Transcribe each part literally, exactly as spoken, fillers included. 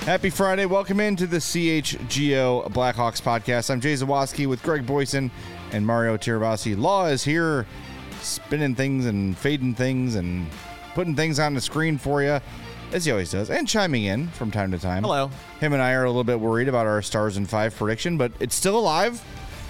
Happy Friday. Welcome into the C H G O Blackhawks podcast. I'm Jay Zawoski with Greg Boyson and Mario Tirabassi. Law is here spinning things and fading things and putting things on the screen for you, as he always does, and chiming in from time to time. Hello. Him and I are a little bit worried about our Stars in Five prediction, but it's still alive.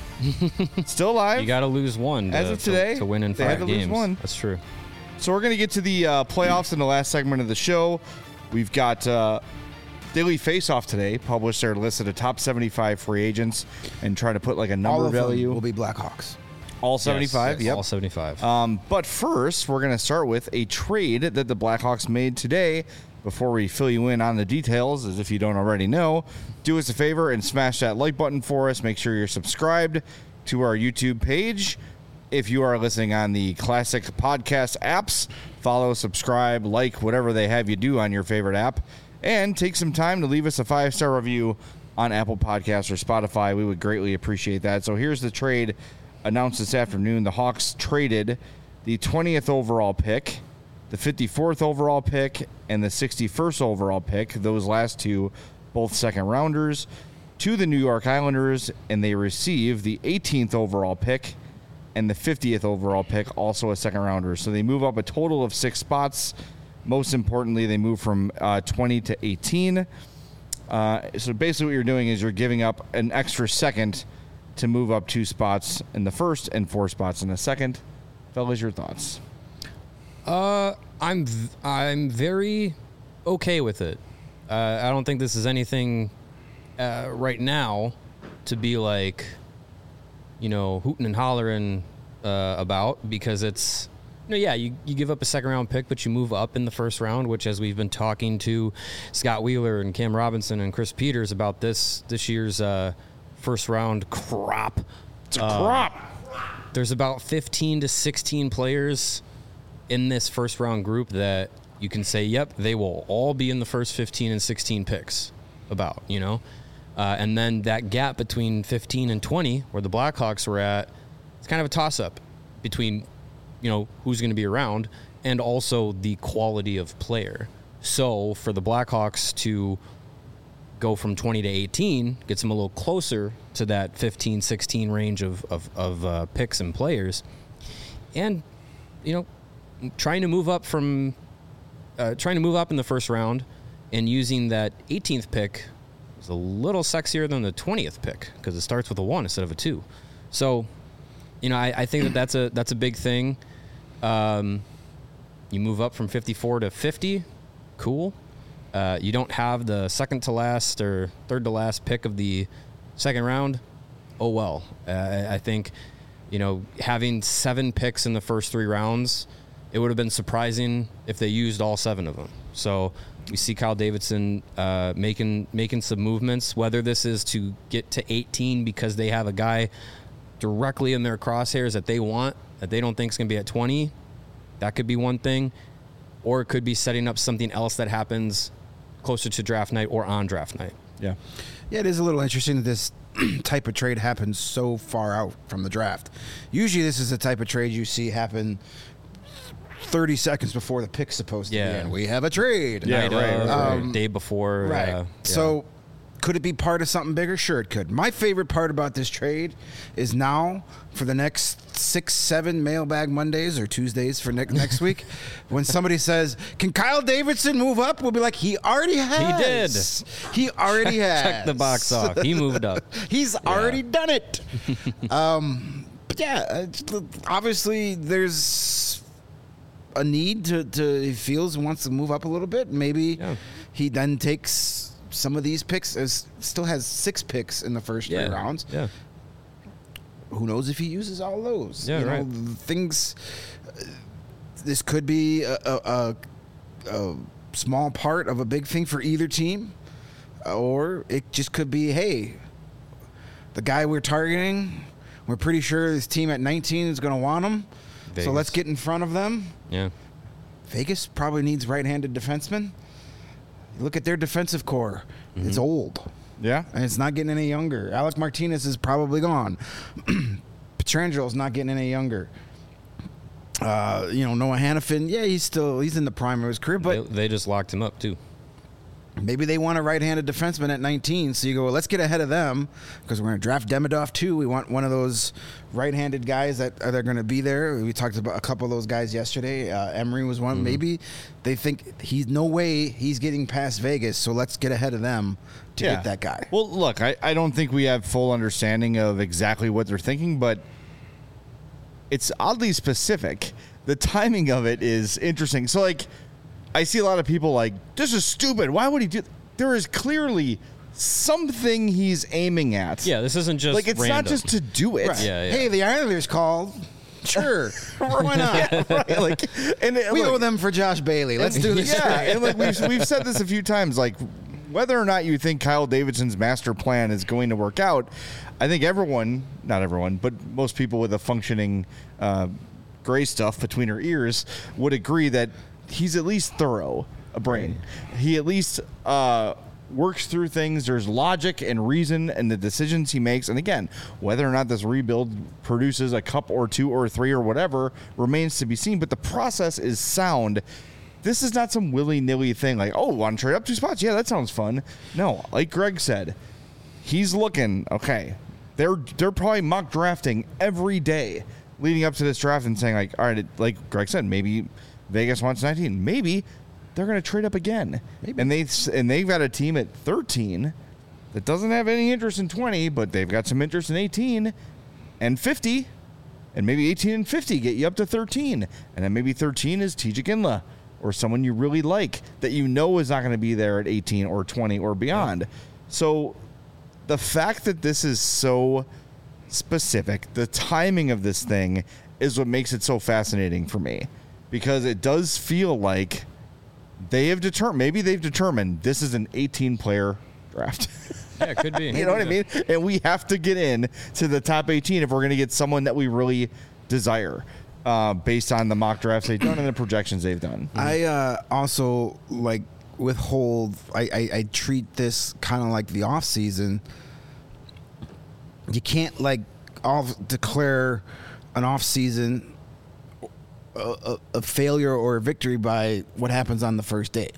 It's still alive. You got to lose one to, As of today, to, to win in they five had to games. lose one. That's true. So we're going to get to the uh, playoffs in the last segment of the show. We've got uh, Daily Faceoff today, published their list of the top seventy-five free agents and try to put like a number All of value. them will be Blackhawks. All seventy-five? Yes, yes, Yep. all seventy-five. Um, but first, we're going to start with a trade that the Blackhawks made today. Before we fill you in on the details, as if you don't already know, do us a favor and smash that like button for us. Make sure you're subscribed to our YouTube page. If you are listening on the classic podcast apps, follow, subscribe, like, whatever they have you do on your favorite app. And take some time to leave us a five-star review on Apple Podcasts or Spotify. We would greatly appreciate that. So here's the trade announced this afternoon. The Hawks traded the twentieth overall pick, the fifty-fourth overall pick, and the sixty-first overall pick, those last two, both second rounders, to the New York Islanders, and they receive the eighteenth overall pick and the fiftieth overall pick, also a second rounder. So they move up a total of six spots. Most importantly, they move from uh, twenty to eighteen. Uh, so basically what you're doing is you're giving up an extra second to move up two spots in the first and four spots in the second. Fellas, your thoughts? Uh, I'm v- I'm very okay with it. Uh, I don't think this is anything uh, right now to be like, you know, hooting and hollering uh, about, because it's, you know, yeah, you, you give up a second round pick, but you move up in the first round, which, as we've been talking to Scott Wheeler and Cam Robinson and Chris Peters about this this year's uh, first round crop. It's a crop. Uh, there's about fifteen to sixteen players in this first round group that you can say, yep, they will all be in the first fifteen and sixteen picks about, you know? Uh, and then that gap between fifteen and twenty, where the Blackhawks were at, it's kind of a toss-up between, you know, who's going to be around and also the quality of player. So for the Blackhawks to go from twenty to eighteen gets them a little closer to that fifteen, sixteen range of, of, of uh, picks and players. And, you know, trying to move up from uh, trying to move up in the first round and using that eighteenth pick is a little sexier than the twentieth pick, because it starts with a one instead of a two. So, you know, I, I think that that's a that's a big thing. Um, you move up from fifty-four to fifty, cool. Uh, you don't have the second to last or third to last pick of the second round. Oh well. Uh, I think, you know, having seven picks in the first three rounds, it would have been surprising if they used all seven of them. So we see Kyle Davidson uh, making making some movements, whether this is to get to eighteen because they have a guy directly in their crosshairs that they want, that they don't think is going to be at twenty. That could be one thing. Or it could be setting up something else that happens closer to draft night or on draft night. Yeah. Yeah, it is a little interesting that this type of trade happens so far out from the draft. Usually this is the type of trade you see happen thirty seconds before the pick's supposed to Yeah. be in. We have a trade. Yeah, Night right, of, right, or right. day before. Right. Uh, So could it be part of something bigger? Sure, it could. My favorite part about this trade is now for the next six, seven mailbag Mondays or Tuesdays for ne- next week, when somebody says, can Kyle Davidson move up? We'll be like, he already has. He He already has. check the box off. He moved up. He's already done it. um, but yeah, uh, obviously there's a need to, to he feels he wants to move up a little bit. Maybe Yeah. he then takes some of these picks, as still has six picks in the first Yeah. three rounds. Yeah. Who knows if he uses all those? Yeah, you know, right. things. Uh, this could be a, a, a, a small part of a big thing for either team, or it just could be, hey, the guy we're targeting, we're pretty sure this team at nineteen is going to want him, so Vegas. let's get in front of them. Yeah. Vegas probably needs right-handed defensemen. Look at their defensive core. Mm-hmm. It's old. Yeah. And it's not getting any younger. Alec Martinez is probably gone. Petrangelo's not getting any younger. Uh, you know, Noah Hannafin, yeah, he's still he's in the prime of his career, but they, they just locked him up too. Maybe they want a right-handed defenseman at nineteen, so you go, well, let's get ahead of them because we're going to draft Demidov too. We want one of those right-handed guys that are going to be there. We talked about a couple of those guys yesterday. Uh, Emery was one. Mm-hmm. Maybe they think he's no way he's getting past Vegas, so let's get ahead of them to yeah. get that guy. Well, look, I, I don't think we have full understanding of exactly what they're thinking, but it's oddly specific. The timing of it is interesting. So, like, I see a lot of people like, this is stupid. Why would he do? There is clearly something he's aiming at. Yeah, this isn't just like it's random. not just to do it. Right. Yeah, yeah. Hey, the Islanders called. Sure, why not? Yeah, right. Like, and it, we look, owe them for Josh Bailey. Let's do this. Yeah, and like we've we've said this a few times. Like, whether or not you think Kyle Davidson's master plan is going to work out, I think everyone, not everyone, but most people with a functioning uh, gray stuff between her ears would agree that he's at least thorough a brain. He at least uh, works through things. There's logic and reason in the decisions he makes. And again, whether or not this rebuild produces a cup or two or three or whatever remains to be seen. But the process is sound. This is not some willy-nilly thing like, oh, want to trade up two spots? Yeah, that sounds fun. No, like Greg said, he's looking, okay, they're they're probably mock drafting every day leading up to this draft and saying, like, all right, like Greg said, maybe Vegas wants nineteen. Maybe they're going to trade up again. Maybe. And, they, and they've got a team at thirteen that doesn't have any interest in twenty, but they've got some interest in eighteen and fifty. And maybe eighteen and fifty get you up to thirteen. And then maybe thirteen is T J Ginla or someone you really like that you know is not going to be there at eighteen or twenty or beyond. Yeah. So the fact that this is so specific, the timing of this thing is what makes it so fascinating for me. Because it does feel like they have determined, maybe they've determined this is an eighteen-player draft. Yeah, it could be. You know what I mean? And we have to get in to the top eighteen if we're going to get someone that we really desire uh, based on the mock drafts they've done and the projections they've done. I uh, also, like, withhold, I, I, I treat this kind of like the offseason. You can't, like, off declare an offseason A, a failure or a victory by what happens on the first day.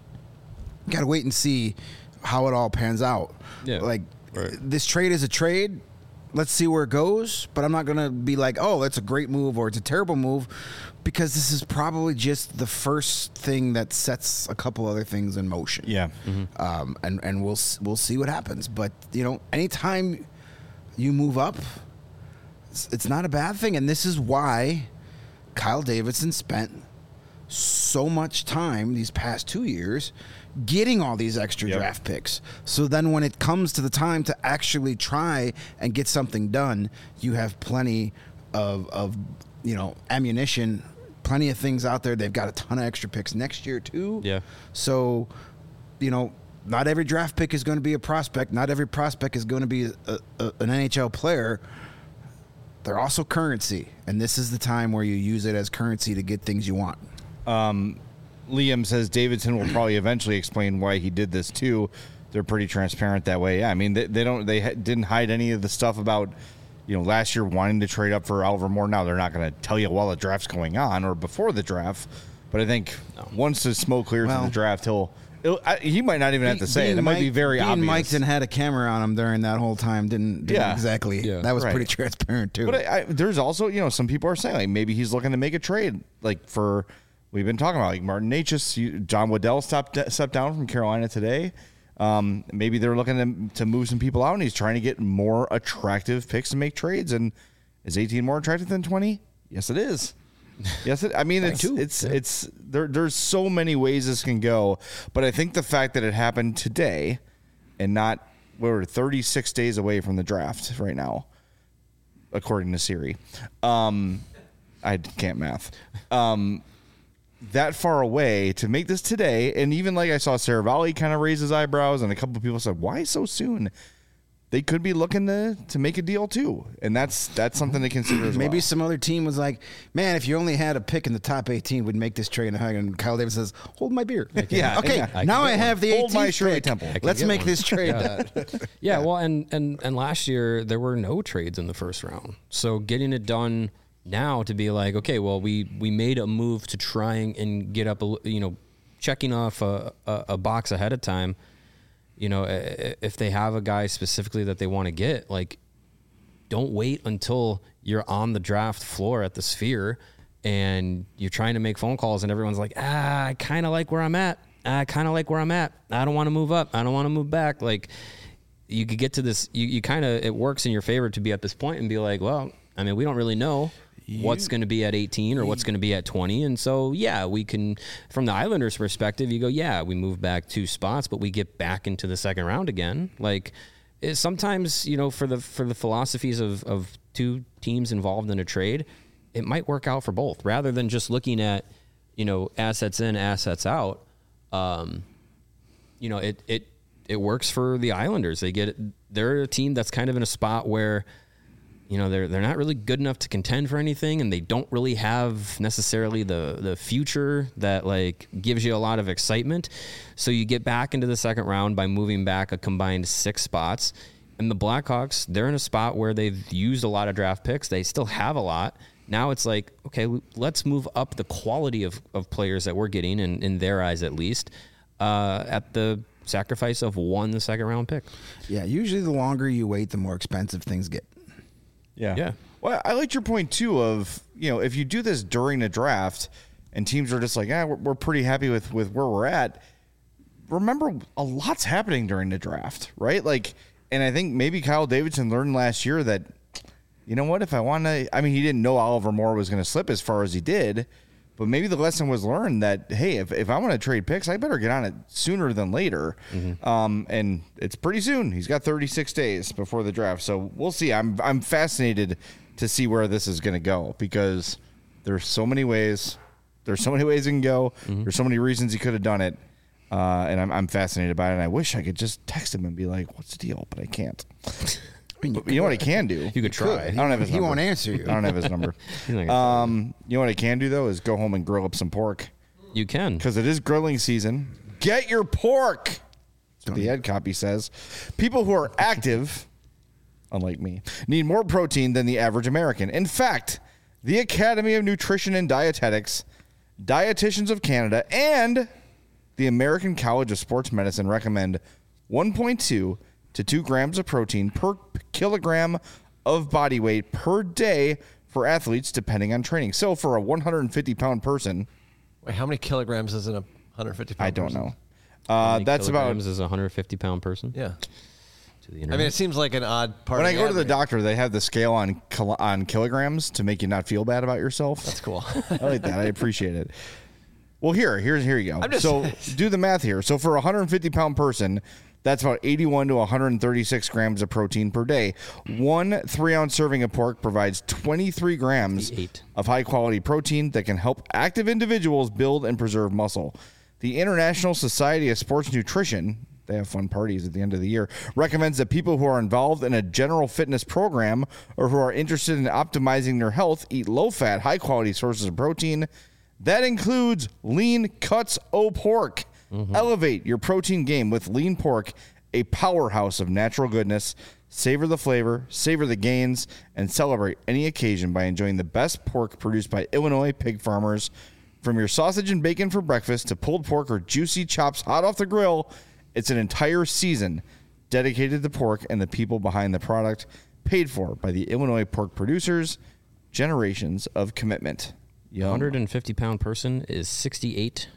You got to wait and see how it all pans out. Yeah, like right. This trade is a trade. Let's see where it goes. But I'm not going to be like, oh, that's a great move or it's a terrible move, because this is probably just the first thing that sets a couple other things in motion. Yeah, mm-hmm. um, and and we'll we'll see what happens. But you know, anytime you move up, it's, it's not a bad thing, and this is why Kyle Davidson spent so much time these past two years getting all these extra yep. draft picks. So then when it comes to the time to actually try and get something done, you have plenty of, of you know, ammunition, plenty of things out there. They've got a ton of extra picks next year too. Yeah. So, you know, not every draft pick is going to be a prospect. Not every prospect is going to be a, a, an N H L player. They're also currency, and this is the time where you use it as currency to get things you want. Um, Liam says Davidson will probably eventually explain why he did this too. They're pretty transparent that way. Yeah, I mean they, they don't they ha- didn't hide any of the stuff about, you know, last year wanting to trade up for Oliver Moore. Now they're not going to tell you while the draft's going on or before the draft, but I think no. once the smoke clears well, in the draft, he'll. I, he might not even have to say it. It might be very being obvious. Mike's and had a camera on him during that whole time. Didn't, didn't yeah. exactly. Yeah. That was right. pretty transparent too. But I, I, there's also, you know, some people are saying like maybe he's looking to make a trade. Like for we've been talking about like Martin Necas, you, John Waddell stopped stepped down from Carolina today. Um, maybe they're looking to, to move some people out, and he's trying to get more attractive picks to make trades. And is eighteen more attractive than twenty? Yes, it is. Yes, it, I mean it's too. it's yeah. it's there. There's so many ways this can go, but I think the fact that it happened today, and not we're thirty-six days away from the draft right now, according to Siri. Um, I can't math. Um, that far away to make this today, and even like I saw Saravalli kind of raise his eyebrows, and a couple of people said, "Why so soon?" They could be looking to, to make a deal too, and that's that's something to consider as Maybe well. some other team was like, "Man, if you only had a pick in the top eighteen, we'd make this trade." And Kyle Davis says, "Hold my beer." Yeah, okay. yeah. I Now I one. have the Hold my eighteenth Shirley pick. Temple. I Let's get make one. this trade. Yeah. yeah, well, and, and and last year there were no trades in the first round, so getting it done now to be like, okay, well, we we made a move to try and get up, a, you know, checking off a, a, a box ahead of time. You know, if they have a guy specifically that they want to get, like, don't wait until you're on the draft floor at the Sphere and you're trying to make phone calls and everyone's like, ah, I kind of like where I'm at. I kind of like where I'm at. I don't want to move up. I don't want to move back. Like, you could get to this, you, you kind of, it works in your favor to be at this point and be like, well, I mean, we don't really know you, what's going to be at eighteen or what's going to be at twenty. And so, yeah, we can, from the Islanders' perspective, you go, yeah, we move back two spots, but we get back into the second round again. Like, it, sometimes, you know, for the for the philosophies of, of two teams involved in a trade, it might work out for both rather than just looking at, you know, assets in, assets out. Um, you know, it, it, it works for the Islanders. They get, they're a team that's kind of in a spot where, you know, they're they're not really good enough to contend for anything, and they don't really have necessarily the the future that like gives you a lot of excitement. So you get back into the second round by moving back a combined six spots. And the Blackhawks, they're in a spot where they've used a lot of draft picks. They still have a lot. Now it's like, okay, let's move up the quality of, of players that we're getting, in, in their eyes at least, uh, at the sacrifice of one second round pick. Yeah, usually the longer you wait, the more expensive things get. Yeah. Yeah. Well, I liked your point, too, of, you know, if you do this during the draft and teams are just like, ah, we're, we're pretty happy with, with where we're at, remember, a lot's happening during the draft, right? Like, and I think maybe Kyle Davidson learned last year that, you know what, if I want to, I mean, he didn't know Oliver Moore was going to slip as far as he did, but maybe the lesson was learned that, hey, if, if I want to trade picks, I better get on it sooner than later. Mm-hmm. Um, and it's pretty soon. He's got thirty-six days before the draft. So we'll see. I'm I'm fascinated to see where this is going to go because there's so many ways. There's so many ways it can go. Mm-hmm. There's so many reasons he could have done it. Uh, and I'm, I'm fascinated by it. And I wish I could just text him and be like, what's the deal? But I can't. I mean, you, you know what I can do? You could try. I don't have his he number. won't answer you. I don't have his number. um, you know what I can do, though, is go home and grill up some pork. You can. Because it is grilling season. Get your pork. That's what the ad copy says. People who are active, unlike me, need more protein than the average American. In fact, the Academy of Nutrition and Dietetics, Dietitians of Canada, and the American College of Sports Medicine recommend one point two to two grams of protein per kilogram of body weight per day for athletes, depending on training. So for a one hundred fifty pound person, wait, how many kilograms is in a one hundred fifty pound? I don't person? know. Uh, that's about is a one hundred fifty pound person. Yeah. To the I mean, it seems like an odd part. When of I the go to the admin. doctor, they have the scale on kil- on kilograms to make you not feel bad about yourself. That's cool. I like that. I appreciate it. Well, here, here's here you go. I'm just- so do the math here. So for a one hundred fifty pound person, that's about eighty-one to one hundred thirty-six grams of protein per day. One three-ounce serving of pork provides twenty-three grams Eight. of high-quality protein that can help active individuals build and preserve muscle. The International Society of Sports Nutrition, they have fun parties at the end of the year, recommends that people who are involved in a general fitness program or who are interested in optimizing their health eat low-fat, high-quality sources of protein. That includes lean cuts o' pork. Mm-hmm. Elevate your protein game with lean pork, a powerhouse of natural goodness. Savor the flavor, savor the gains, and celebrate any occasion by enjoying the best pork produced by Illinois pig farmers. From your sausage and bacon for breakfast to pulled pork or juicy chops hot off the grill, it's an entire season dedicated to pork and the people behind the product, paid for by the Illinois pork producers. Generations of commitment. Yum. one hundred fifty pound person is sixty-eight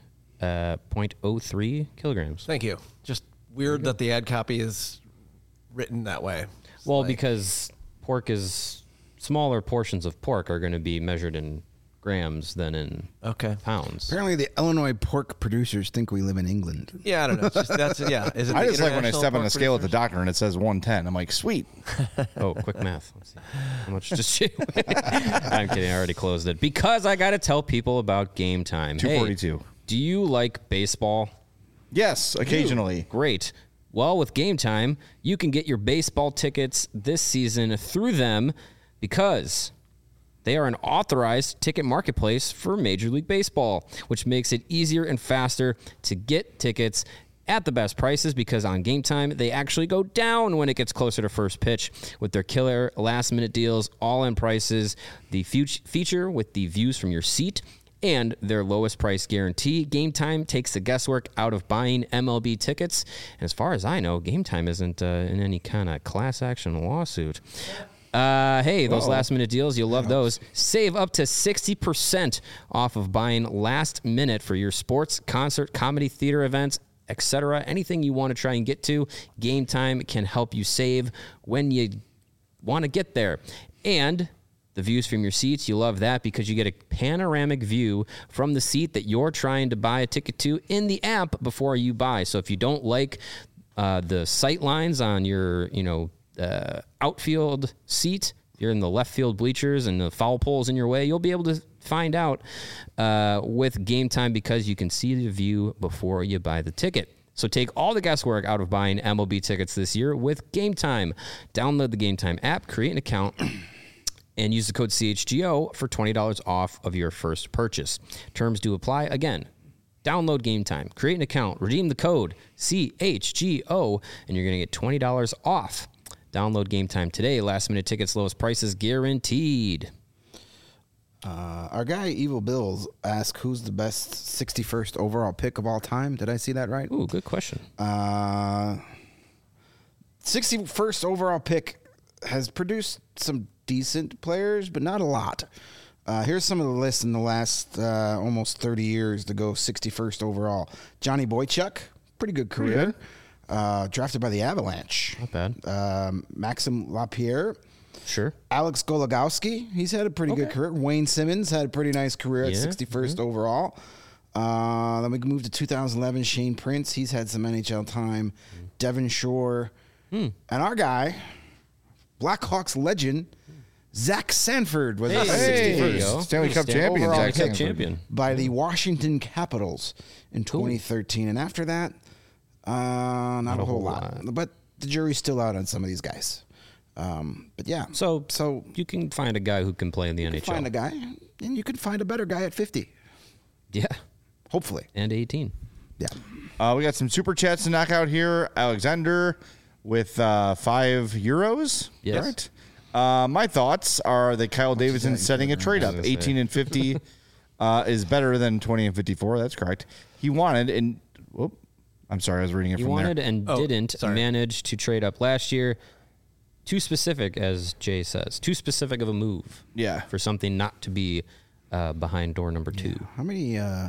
point oh three kilograms. Thank you. Just weird that the ad copy is written that way. It's Well, like- because pork is smaller portions of pork are going to be measured in grams than in okay. pounds. Apparently, the Illinois pork producers think we live in England. Yeah, I don't know. It's just, that's yeah. Is it I the just like when I International step on the Pork scale at the Producers? doctor and it says one ten. I'm like, sweet. Oh, quick math. Let's see. How much just she? I'm kidding. I already closed it because I got to tell people about Game Time. two forty-two. Hey, do you like baseball? Yes, occasionally. Great. Well, with Game Time, you can get your baseball tickets this season through them because they are an authorized ticket marketplace for Major League Baseball, which makes it easier and faster to get tickets at the best prices because on Game Time, they actually go down when it gets closer to first pitch with their killer last-minute deals, all-in prices, the fe- feature with the views from your seat, and their lowest price guarantee. Game Time takes the guesswork out of buying M L B tickets. And as far as I know, Game Time isn't uh, in any kind of class action lawsuit. Uh, hey, those Whoa. last minute deals, you'll love those. Save up to sixty percent off of buying last minute for your sports, concert, comedy, theater events, et cetera. Anything you want to try and get to, Game Time can help you save when you want to get there. And the views from your seats, you love that because you get a panoramic view from the seat that you're trying to buy a ticket to in the app before you buy. So if you don't like uh, the sight lines on your, you know, uh, outfield seat, you're in the left field bleachers and the foul pole's in your way, you'll be able to find out uh, with Game Time because you can see the view before you buy the ticket. So take all the guesswork out of buying M L B tickets this year with Game Time. Download the Game Time app, create an account, and use the code C H G O for twenty dollars off of your first purchase. Terms do apply. Again, download Game Time, create an account, redeem the code C H G O, and you're going to get twenty dollars off. Download Game Time today. Last minute tickets, lowest prices guaranteed. Uh, our guy Evil Bills asked, "Who's the best sixty-first overall pick of all time?" Did I see that right? Ooh, good question. Uh, sixty-first overall pick has produced some decent players, but not a lot. Uh, here's some of the lists in the last uh, almost thirty years to go sixty-first overall. Johnny Boychuk, pretty good career. Uh, drafted by the Avalanche. Not bad. Um, Maxim Lapierre. Sure. Alex Gologowski, he's had a pretty Okay. good career. Wayne Simmons had a pretty nice career at Yeah, sixty-first overall. Uh, then we can move to two thousand eleven. Shane Prince, he's had some N H L time. Devon Shore. And our guy, Blackhawks legend, Zach Sanford was Hey, at there you Hey, go. Stanley Cup Stanley champion, overall Zach Cup Sanford. champion. by the Washington Capitals in twenty thirteen. And after that, uh, not, a whole lot. But the jury's still out on some of these guys. Um, but yeah, So, so you can find a guy who can play in the you N can H L. find a guy, and you can find a better guy at fifty. Yeah, Hopefully. and eighteen. Yeah. Uh, we got some super chats to knock out here. Alexander with uh, five euros. Yes. Correct? Uh, my thoughts are that Kyle Davidson setting a trade up. I was gonna say. eighteen and fifty uh, is better than twenty and fifty-four. That's correct. He wanted, and whoop, I'm sorry, I was reading it He from wanted there. and Oh, didn't sorry. manage to trade up last year. Too specific, as Jay says. Too specific of a move. Yeah. For something not to be uh, behind door number two. How many, uh,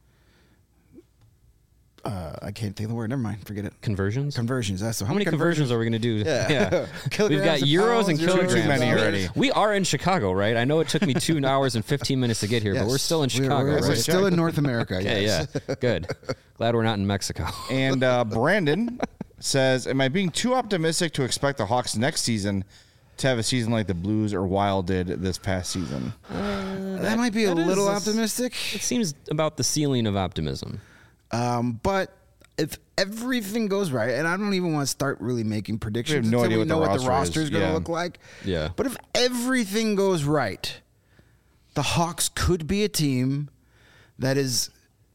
uh, I can't think of the word. Never mind. Forget it. Conversions? Conversions. That's so How many conversions are we going to do? Yeah. We've got Kilograms and euros pounds, and euros kilograms. Too many already. We are in Chicago, right? I know it took me two hours and fifteen minutes to get here, but we're still in We're- Chicago, we're, we're right? still in North America. Okay, yes. yeah. Good. Glad we're not in Mexico. And uh, Brandon says, am I being too optimistic to expect the Hawks next season to have a season like the Blues or Wild did this past season? That might be a that is little a- optimistic. It seems about the ceiling of optimism. Um, but if everything goes right, and I don't even want to start really making predictions We have no until idea we what the know what the roster roster is. is going to Yeah. look like. Yeah. But if everything goes right, the Hawks could be a team that is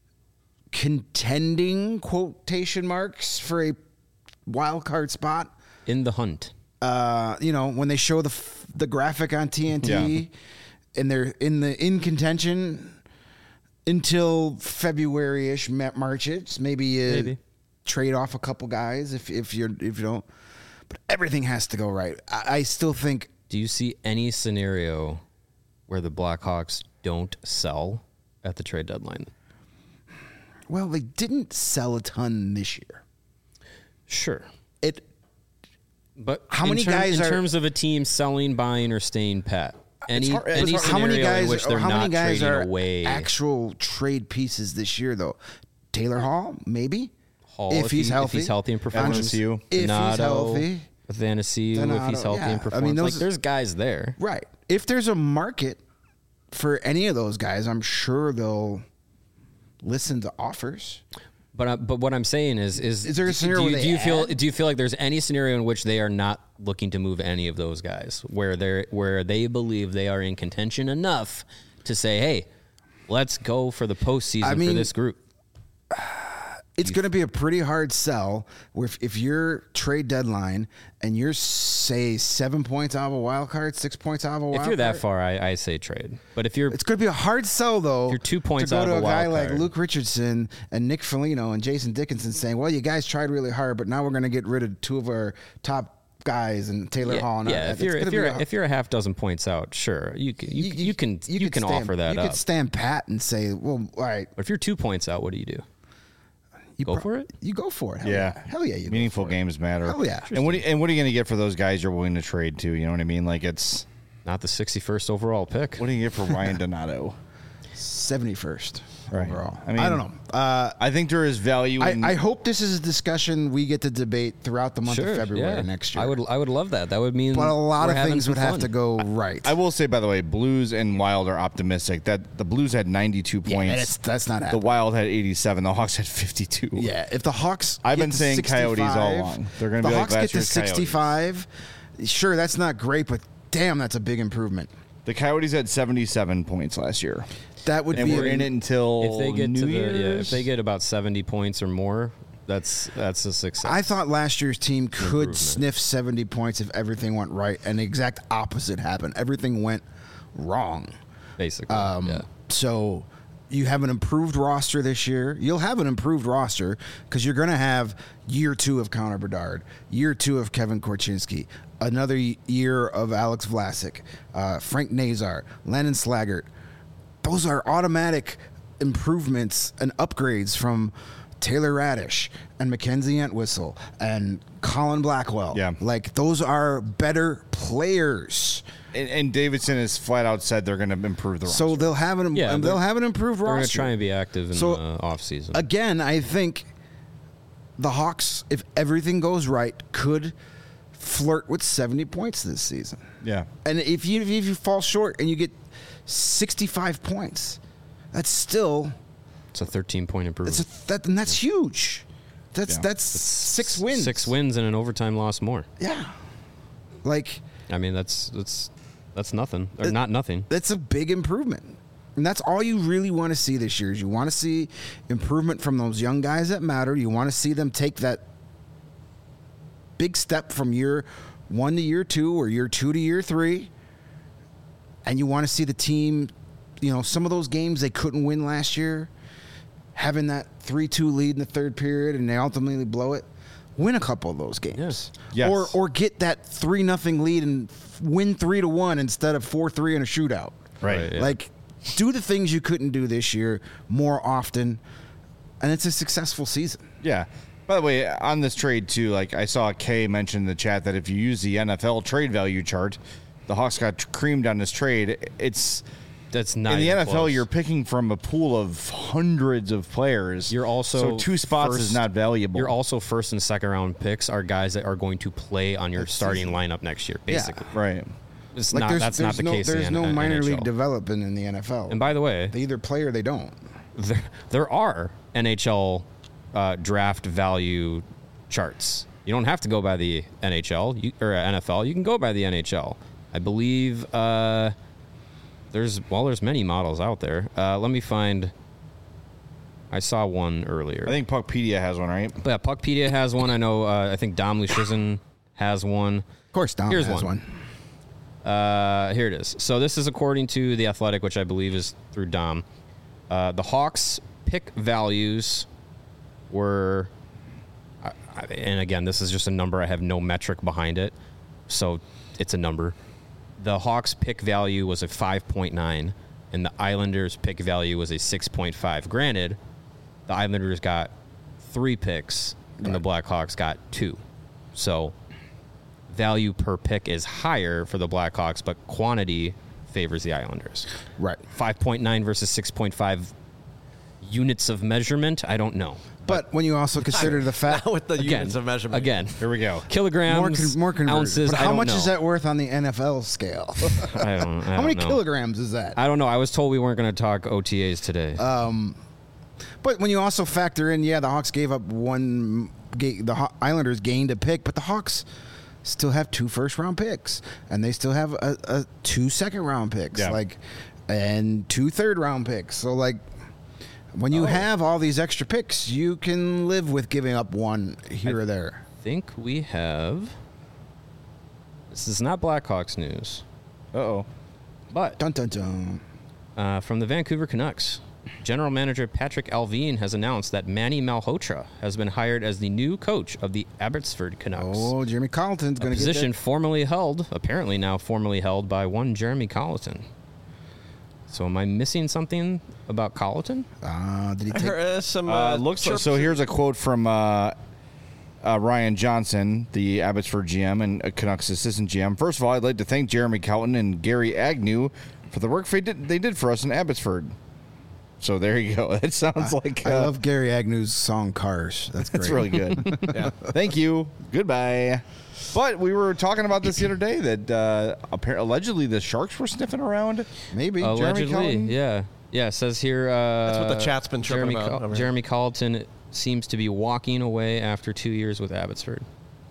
contending, quotation marks, for a wild card spot. In the hunt. Uh, you know, when they show the f- the graphic on T N T Yeah. and they're in the in contention until February-ish, Ma- March-ish, maybe you Maybe. trade off a couple guys if if you're if you don't. But everything has to go right. I, I still think Do you see any scenario where the Blackhawks don't sell at the trade deadline? well, they didn't sell a ton this year. Sure. It But How in many term- guys in are- terms of a team selling, buying, or staying pat? Any, hard- it's any hard- scenario how many guys in which they're how not many guys trading are away. actual trade pieces this year though? Taylor Hall, maybe. Hall, if, he's he, healthy. if he's healthy and performs. Athanasiu. If he's Donato, healthy. Athanasiu, if Donato, he's healthy yeah. and I performs. mean, like, those- there's guys there. Right. If there's a market for any of those guys, I'm sure they'll listen to offers. But uh, but what I'm saying is is Is there a do- scenario do you, where do you they feel add? do you feel like there's any scenario in which they are not looking to move any of those guys where they're where they believe they are in contention enough to say, hey, let's go for the postseason I for mean, this group? It's going to be a pretty hard sell where if, if you're trade deadline and you're, say, seven points out of a wild card, six points out of a wild card. If you're that far, I, I say trade. But if you're It's going to be a hard sell, though. You're two points to go out to of a a guy wild like card. Luke Richardson and Nick Foligno and Jason Dickinson saying, well, you guys tried really hard, but now we're going to get rid of two of our top guys and Taylor yeah, Hall. And yeah, if you're if you're if you're a half dozen points out, sure, you can you, you, you can you, could can stand, offer that You up. could stand pat and say, well, all right. But if you're two points out, what do you do? You Go pro- for it? You go for it. Hell Yeah. yeah. Hell yeah. You Meaningful go for it. games matter. Hell yeah. And what, are you, and what are you going to get for those guys you're willing to trade to? You know what I mean? Like, it's. Not the sixty-first overall pick. What do you get for Ryan Donato? seventy-first Right. overall. I I, mean- don't know. Uh, I think there is value I, in. I hope this is a discussion we get to debate throughout the month Sure, of February yeah. next year. I would I would love that. That would mean but a lot we're of having things some would have fun. to go right. I will say, by the way, Blues and Wild are optimistic that the Blues had ninety-two yeah, points. that's, that's not The happening. Wild had eighty-seven. The Hawks had fifty-two. Yeah, if the Hawks, I've get been to saying Coyotes all sixty-five, along. They're gonna the be like Hawks last get to year's Coyotes. sixty-five. Sure, that's not great, but damn, that's a big improvement. The Coyotes had seventy-seven points last year, That would and be we're in it until If they get New to the Year's. yeah, if they get about seventy points or more, that's that's a success. I thought last year's team could Improvement. sniff seventy points if everything went right, and the exact opposite happened. Everything went wrong. basically. Um, yeah. So you have an improved roster this year. You'll have an improved roster because you're going to have year two of Connor Bedard, year two of Kevin Korchinski, another y- year of Alex Vlasic, uh, Frank Nazar, Landon Slaggert. Those are automatic improvements and upgrades from Taylor Radish and Mackenzie Entwistle and Colin Blackwell. Yeah. Like, those are better players. and, and Davidson has flat out said they're going to improve the roster. So they'll have an Yeah, um, they're- they'll have an improved We're going to roster. try and be active in So, the off season. Again, I think the Hawks, if everything goes right, could flirt with seventy points this season. yeah, And if you if you fall short and you get sixty-five points, that's still it's a thirteen point improvement. that's a, that and that's huge. That's Yeah. that's six wins. Six wins and an overtime loss more. Yeah. Like, I mean, that's that's that's nothing or It- not nothing. that's a big improvement. And that's all you really want to see this year is you want to see improvement from those young guys that matter. You want to see them take that big step from year one to year two or year two to year three. And you want to see the team, you know, some of those games they couldn't win last year, having that three two lead in the third period and they ultimately blow it. Win a couple of those games. Yes. Or or get that three nothing lead and win three to one instead of four three in a shootout. right. Right, yeah. Like, do the things you couldn't do this year more often, and it's a successful season. Yeah. By the way, on this trade too, like I saw Kay mention in the chat that if you use the N F L trade value chart, the Hawks got creamed on this trade. It's That's not in the even N F L. close. You're picking from a pool of hundreds of players. You're also so two spots first- is not valuable. You're also first and second round picks are guys that are going to play on your starting lineup next year. Basically, right. it's Like, not. there's, That's there's not the no, case. There's in no the N- minor N H L. league development in the N F L. And by the way, They either play or they don't. there, there are N H L uh, draft value charts. You don't have to go by the N H L you, or N F L. You can go by the N H L. I believe uh, there's well, there's many models out there. Uh, let me find. I saw one earlier. I think Puckpedia has one, right? But yeah, Puckpedia has one. I know. Uh, I think Dom Lucian has one. Of course, Dom Here's has one. one. Uh, here it is. So this is according to The Athletic, which I believe is through Dom. Uh, the Hawks' pick values were, I- I- and again, this is just a number. I have no metric behind it, so it's a number. The Hawks' pick value was a five point nine, and the Islanders' pick value was a six point five. Granted, the Islanders got three picks, and the Blackhawks got two. So value per pick is higher for the Blackhawks, but quantity favors the Islanders. Right. five point nine versus six point five units of measurement, I don't know. But when you also consider the fact Not with the Again, units of measurement. Again, Here we go. kilograms, more con- more converted. ounces. But I how don't much know. is that worth on the N F L scale? I don't, I how don't many know. kilograms is that? I don't know. I was told we weren't going to talk O T As today. But when you also factor in, yeah, the Hawks gave up one, ga- the Haw- Islanders gained a pick, but the Hawks still have two first round picks, and they still have a, a two second round picks, Yeah. like, and two third round picks. So like, When you Oh. have all these extra picks, you can live with giving up one here or there. I think we have. This is not Blackhawks news, Uh-oh. but Dun dun dun. uh, from the Vancouver Canucks, General Manager Patrick Alvin has announced that Manny Malhotra has been hired as the new coach of the Abbotsford Canucks. Oh, Jeremy Colleton's a going to get position that. formerly held, apparently now formerly held by one Jeremy Colleton. So am I missing something about Colleton? Uh, did he I take? heard uh, some. Uh, Uh, looks like, chirps- so here's a quote from uh, uh, Ryan Johnson, the Abbotsford G M and uh, Canucks assistant G M. First of all, I'd like to thank Jeremy Colleton and Gary Agnew for the work they did, they did for us in Abbotsford. So there you go. That sounds like I uh, love Gary Agnew's song "Cars." That's great. that's really good. Yeah. Thank you. Goodbye. But we were talking about this the other day that uh, appar- allegedly the Sharks were sniffing around. Maybe. Jeremy Allegedly, Colleton? yeah. Yeah, it says here. Uh, That's what the chat's been chirping Jeremy, about Col- over here. Jeremy Colleton seems to be walking away after two years with Abbotsford.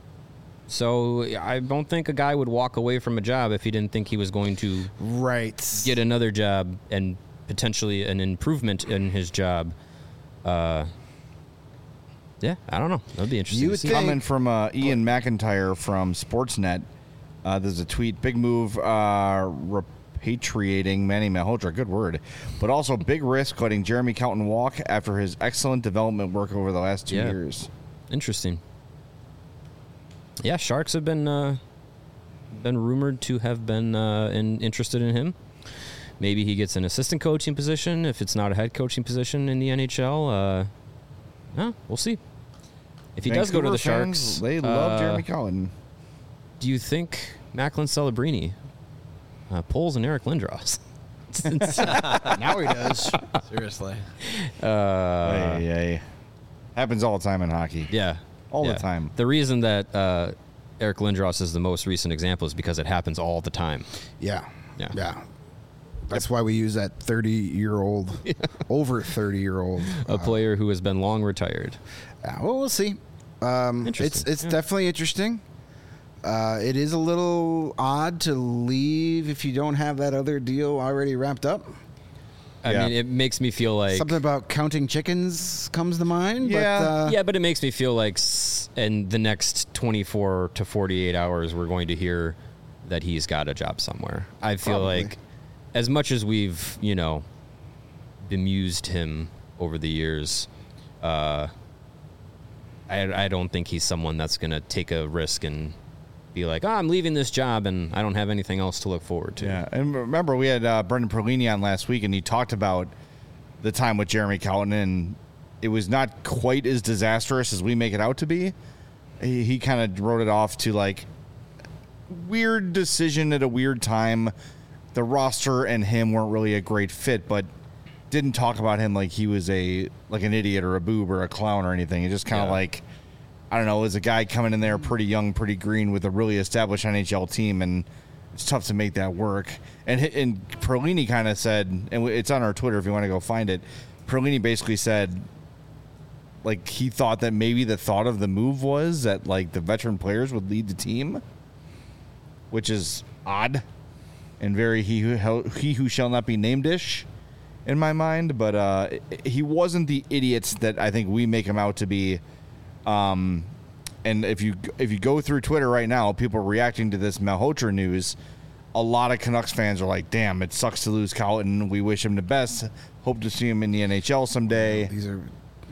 So I don't think a guy would walk away from a job if he didn't think he was going to Right. get another job and potentially an improvement in his job. Uh, yeah, I don't know. That'd be interesting. You to would see. think- Comment from uh, Ian McIntyre from Sportsnet. Uh, there's a tweet. Big move uh, repatriating Manny Malhotra. Good word. But also big risk letting Jeremy Colleton walk after his excellent development work over the last two Yeah. years. Interesting. Yeah, Sharks have been uh, been rumored to have been uh, in, interested in him. Maybe he gets an assistant coaching position if it's not a head coaching position in the N H L. Uh, yeah, we'll see. If he does go to the Vancouver fans, Sharks, they love uh, Jeremy Colleton. Do you think Macklin Celebrini uh, pulls an Eric Lindros? Now he does. Seriously. uh, Hey, hey. Happens all the time in hockey. Yeah. All the yeah. time. The reason that uh, Eric Lindros is the most recent example is because it happens all the time. Yeah. Yeah. Yeah. That's why we use that thirty-year-old, over thirty-year-old. A player who has been long retired. Yeah, well, we'll see. Um, it's Interesting, it's definitely interesting. Uh, it is a little odd to leave if you don't have that other deal already wrapped up. I Yeah. mean, it makes me feel like Something about counting chickens comes to mind. Yeah. But, uh, yeah, but it makes me feel like s- in the next twenty-four to forty-eight hours, we're going to hear that he's got a job somewhere. I feel Probably. like, as much as we've you know bemused him over the years, uh, I I don't think he's someone that's going to take a risk and be like, oh, I'm leaving this job and I don't have anything else to look forward to. Yeah, and remember we had uh, Brendan Perlini on last week, and he talked about the time with Jeremy Colleton, and it was not quite as disastrous as we make it out to be. He, he kind of wrote it off to like weird decision at a weird time. The roster and him weren't really a great fit, but didn't talk about him like he was a like an idiot or a boob or a clown or anything. It just kind of Yeah. like, I don't know, as a guy coming in there pretty young, pretty green with a really established N H L team, and it's tough to make that work. And hi- and Perlini kind of said, and it's on our Twitter if you want to go find it. Perlini basically said, like he thought that maybe the thought of the move was that like the veteran players would lead the team, which is odd and very he who he who shall not be named-ish in my mind. But uh, he wasn't the idiots that I think we make him out to be. Um, and if you if you go through Twitter right now, people reacting to this Malhotra news, a lot of Canucks fans are like, "Damn, it sucks to lose Colleton. We wish him the best. Hope to see him in the N H L someday." These are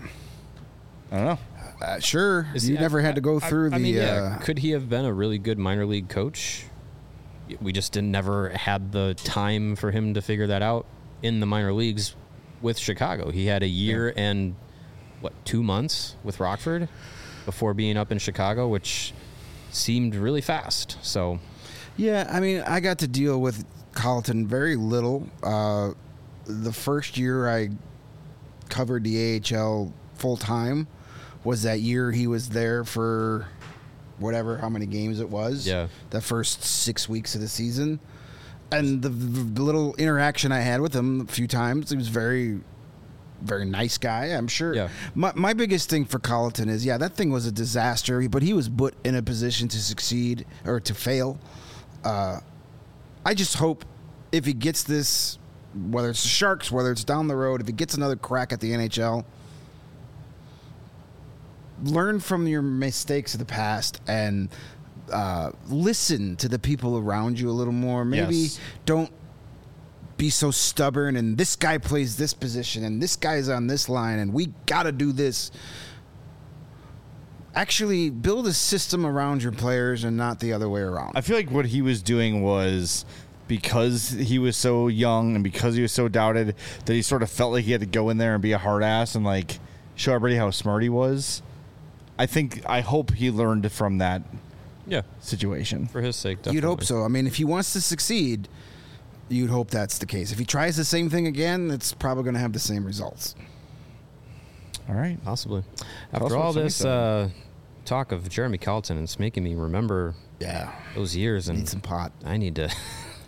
I don't know. uh, sure. Is you he- never I- had to go I- through I the. mean, yeah, uh, could he have been a really good minor league coach? We just didn't never had the time for him to figure that out in the minor leagues with Chicago. He had a year and what two months with Rockford before being up in Chicago, which seemed really fast. So Yeah, I mean, I got to deal with Colleton very little. Uh, the first year I covered the A H L full time was that year he was there for whatever, how many games it was. Yeah. The first six weeks of the season. And the, the little interaction I had with him a few times, he was very, very nice guy, I'm sure. Yeah. My, my biggest thing for Colleton is, yeah, that thing was a disaster, but he was put in a position to succeed or to fail. Uh, I just hope if he gets this whether it's the Sharks, whether it's down the road, if he gets another crack at the N H L, learn from your mistakes of the past and uh, listen to the people around you a little more. Maybe Yes. don't be so stubborn and this guy plays this position and this guy's on this line and we got to do this. Actually build a system around your players and not the other way around. I feel like what he was doing was because he was so young and because he was so doubted that he sort of felt like he had to go in there and be a hard ass and like show everybody how smart he was. I think, I hope he learned from that Yeah, situation. for his sake, definitely. You'd hope so. I mean, if he wants to succeed, you'd hope that's the case. If he tries the same thing again, it's probably going to have the same results. All right. Possibly. Tell us After what all Sonny this said. uh, talk of Jeremy Colleton, it's making me remember Yeah. those years, and Need some pot. I need to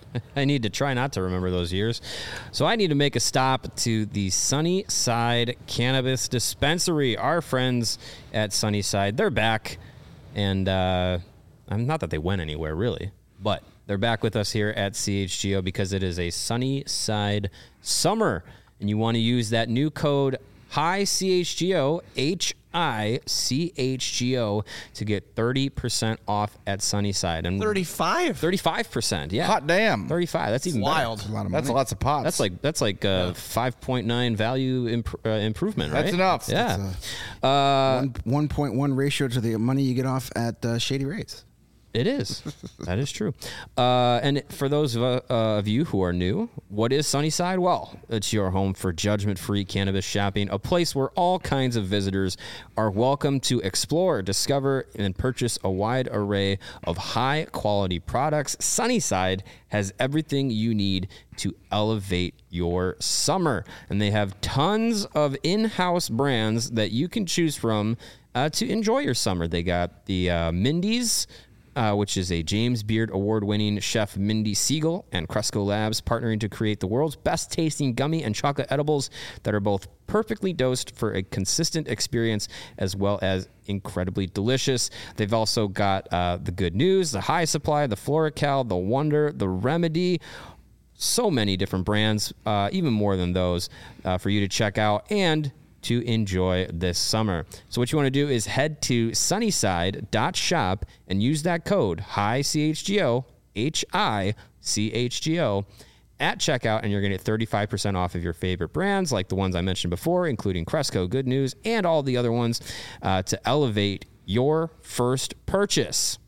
I need to try not to remember those years. So I need to make a stop to the Sunnyside Cannabis Dispensary. Our friends at Sunnyside, they're back. And uh, I'm not that they went anywhere, really, but they're back with us here at C H G O because it is a Sunnyside summer. And you want to use that new code Hi C H G O, H I C H G O, to get thirty percent off at Sunnyside. And thirty-five. thirty-five percent, yeah. Hot damn. thirty-five. That's even Wild. better. A lot of That's money. lots of pots. That's like that's like uh, five point nine value imp- uh, improvement, right? That's enough. Yeah. uh, one, one point one ratio to the money you get off at uh, Shady Rays. It is. That is true. Uh, and for those of, uh, of you who are new, what is Sunnyside? Well, it's your home for judgment-free cannabis shopping, a place where all kinds of visitors are welcome to explore, discover, and purchase a wide array of high-quality products. Sunnyside has everything you need to elevate your summer. And they have tons of in-house brands that you can choose from uh, to enjoy your summer. They got the uh, Mindy's, Uh, which is a James Beard award-winning chef Mindy Siegel and Cresco Labs partnering to create the world's best-tasting gummy and chocolate edibles that are both perfectly dosed for a consistent experience as well as incredibly delicious. They've also got uh, the Good News, the High Supply, the Floracal, the Wonder, the Remedy. So many different brands, uh, even more than those, uh, for you to check out and to enjoy this summer. So what you want to do is head to sunnyside dot shop and use that code Hi C H G O, H I C H G O, at checkout, and you're going to get thirty-five percent off of your favorite brands like the ones I mentioned before, including Cresco, Good News, and all the other ones uh, to elevate your first purchase.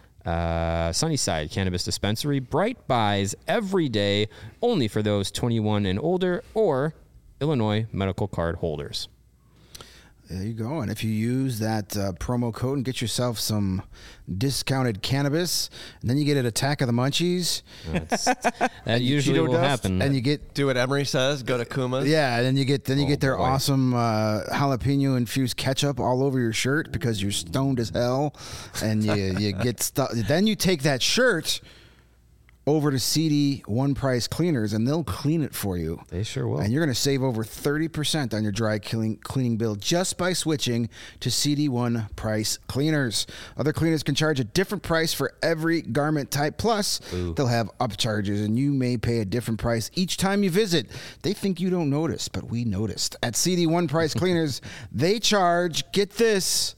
Uh, Sunnyside Cannabis Dispensary, bright buys every day, only for those twenty-one and older or Illinois medical card holders. There you go. And if you use that uh, promo code and get yourself some discounted cannabis, and then you get an attack of the munchies, That's, that usually Cheeto will dust, happen. and you get Do what Emery says. Go to Kuma's. yeah, and then you get then you Oh, get their boy. awesome uh, jalapeno infused ketchup all over your shirt because you're stoned as hell, and you you get stuff. Then you take that shirt over to C D One Price Cleaners, and they'll clean it for you. They sure will. And you're going to save over thirty percent on your dry cleaning, cleaning bill just by switching to C D One Price Cleaners. Other cleaners can charge a different price for every garment type. Plus, they'll have upcharges, and you may pay a different price each time you visit. They think you don't notice, but we noticed. At C D One Price Cleaners, they charge, get this,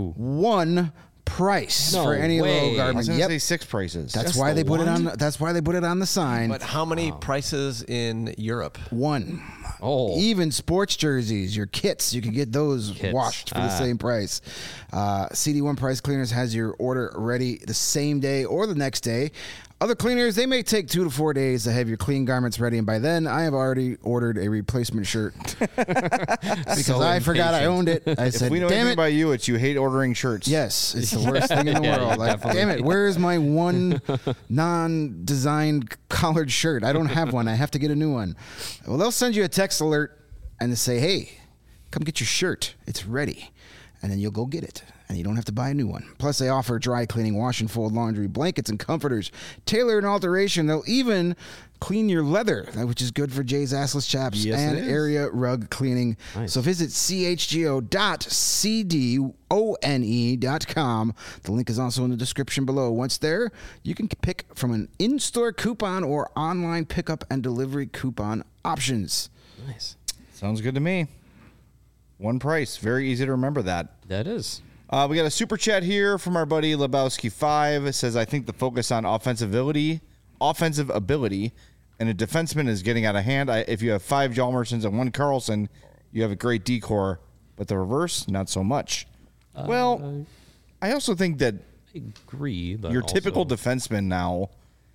one price No for any way. low I was garment. going to Yep. say six prices. That's Just why the they put it one? on. That's why they put it on the sign. But how many prices in Europe? One. Oh. Even sports jerseys, your kits, you can get those Kits. washed for the Ah. same price. Uh, C D One Price Cleaners has your order ready the same day or the next day. Other cleaners, they may take two to four days to have your clean garments ready, and by then, I have already ordered a replacement shirt because So I forgot I impatient. owned it. I if said, we know "Damn anything it!" about you, it's you hate ordering shirts. Yes, it's the worst thing in the Yeah, world. you Like, definitely- damn it, where is my one non-designed collared shirt? I don't have one. I have to get a new one. Well, they'll send you a text alert and they say, hey, come get your shirt. It's ready. and then you'll go get it, and you don't have to buy a new one. Plus, they offer dry cleaning, wash and fold laundry, blankets and comforters, tailor and alteration. They'll even clean your leather, which is good for Jay's assless chaps, Yes, and it is. area rug cleaning. Nice. So visit c h g o dot c d o n e dot com. The link is also in the description below. Once there, you can pick from an in-store coupon or online pickup and delivery coupon options. Nice. Sounds good to me. One price. Very easy to remember that. That is. Uh, we got a super chat here from our buddy Lebowski five. It says, I think the focus on offensive ability, offensive ability and a defenseman is getting out of hand. I, if you have five Hjalmarssons and one Carlson, you have a great decor, but the reverse, not so much. Uh, well, I also think that I agree, but your also- typical defenseman now,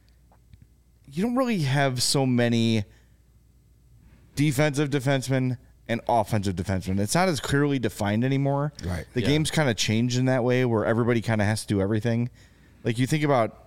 you don't really have so many defensive defensemen and offensive defensemen. It's not as clearly defined anymore. Right. The Yeah. game's kind of changed in that way where everybody kind of has to do everything. Like you think about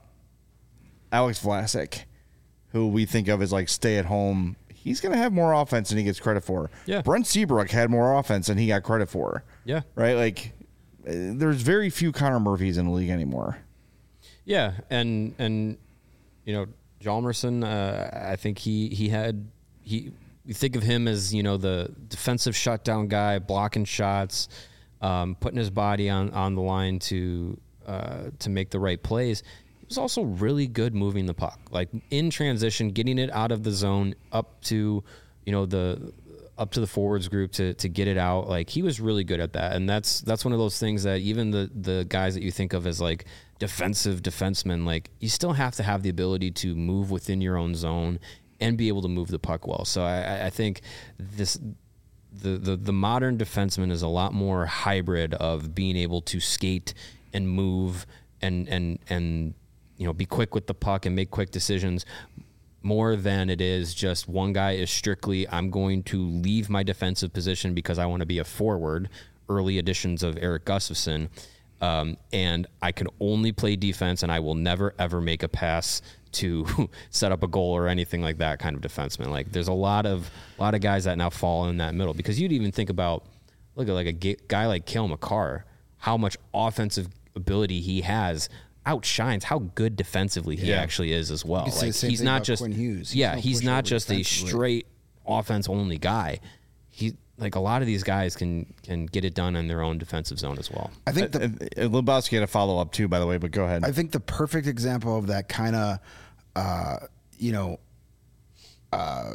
Alex Vlasic, who we think of as like stay at home. He's going to have more offense than he gets credit for. Yeah. Brent Seabrook had more offense than he got credit for. Yeah. Right? Like uh, there's very few Connor Murphys in the league anymore. Yeah, and and you know, Hjalmarsson, uh, I think he he had he. We think of him as, you know, the defensive shutdown guy, blocking shots, um, putting his body on, on the line to uh, to make the right plays. He was also really good moving the puck, like in transition, getting it out of the zone up to, you know, the up to the forwards group to to get it out. Like he was really good at that, and that's that's one of those things that even the the guys that you think of as like defensive defensemen, like you still have to have the ability to move within your own zone and be able to move the puck well. So I, I think this the, the the modern defenseman is a lot more hybrid of being able to skate and move and and and you know be quick with the puck and make quick decisions more than it is just one guy is strictly I'm going to leave my defensive position because I want to be a forward. Early editions of Eric Gustafsson. Um, and I can only play defense and I will never ever make a pass to set up a goal or anything like that kind of defenseman. Like there's a lot of a lot of guys that now fall in that middle because you'd even think about look at like a ga- guy like Cale Makar, how much offensive ability he has outshines how good defensively he Yeah. You actually is as well. could say the Like same he's thing not about just Quinn Hughes. He's yeah, no he's not pushover just a defensively. straight offense only guy. He like a lot of these guys can can get it done in their own defensive zone as well. I think the Uh, uh, Lebowski had a follow up too, by the way, but go ahead. I think the perfect example of that kind of, uh, you know, uh,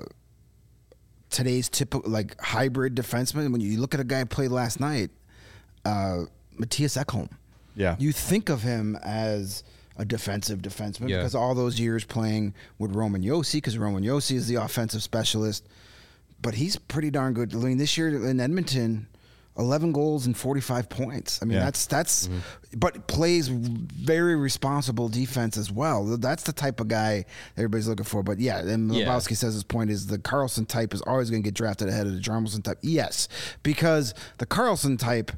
today's typical like hybrid defenseman. When you look at a guy play last night, uh, Matthias Ekholm. Yeah. You think of him as a defensive defenseman Yeah. because all those years playing with Roman Josi, because Roman Josi is the offensive specialist. But he's pretty darn good. I mean, this year in Edmonton, eleven goals and forty-five points. I mean, Yeah. that's that's, but plays very responsible defense as well. That's the type of guy everybody's looking for. But yeah, and Yeah. Lebowski says his point is the Carlson type is always going to get drafted ahead of the Hjalmarsson type. Yes, because the Carlson type,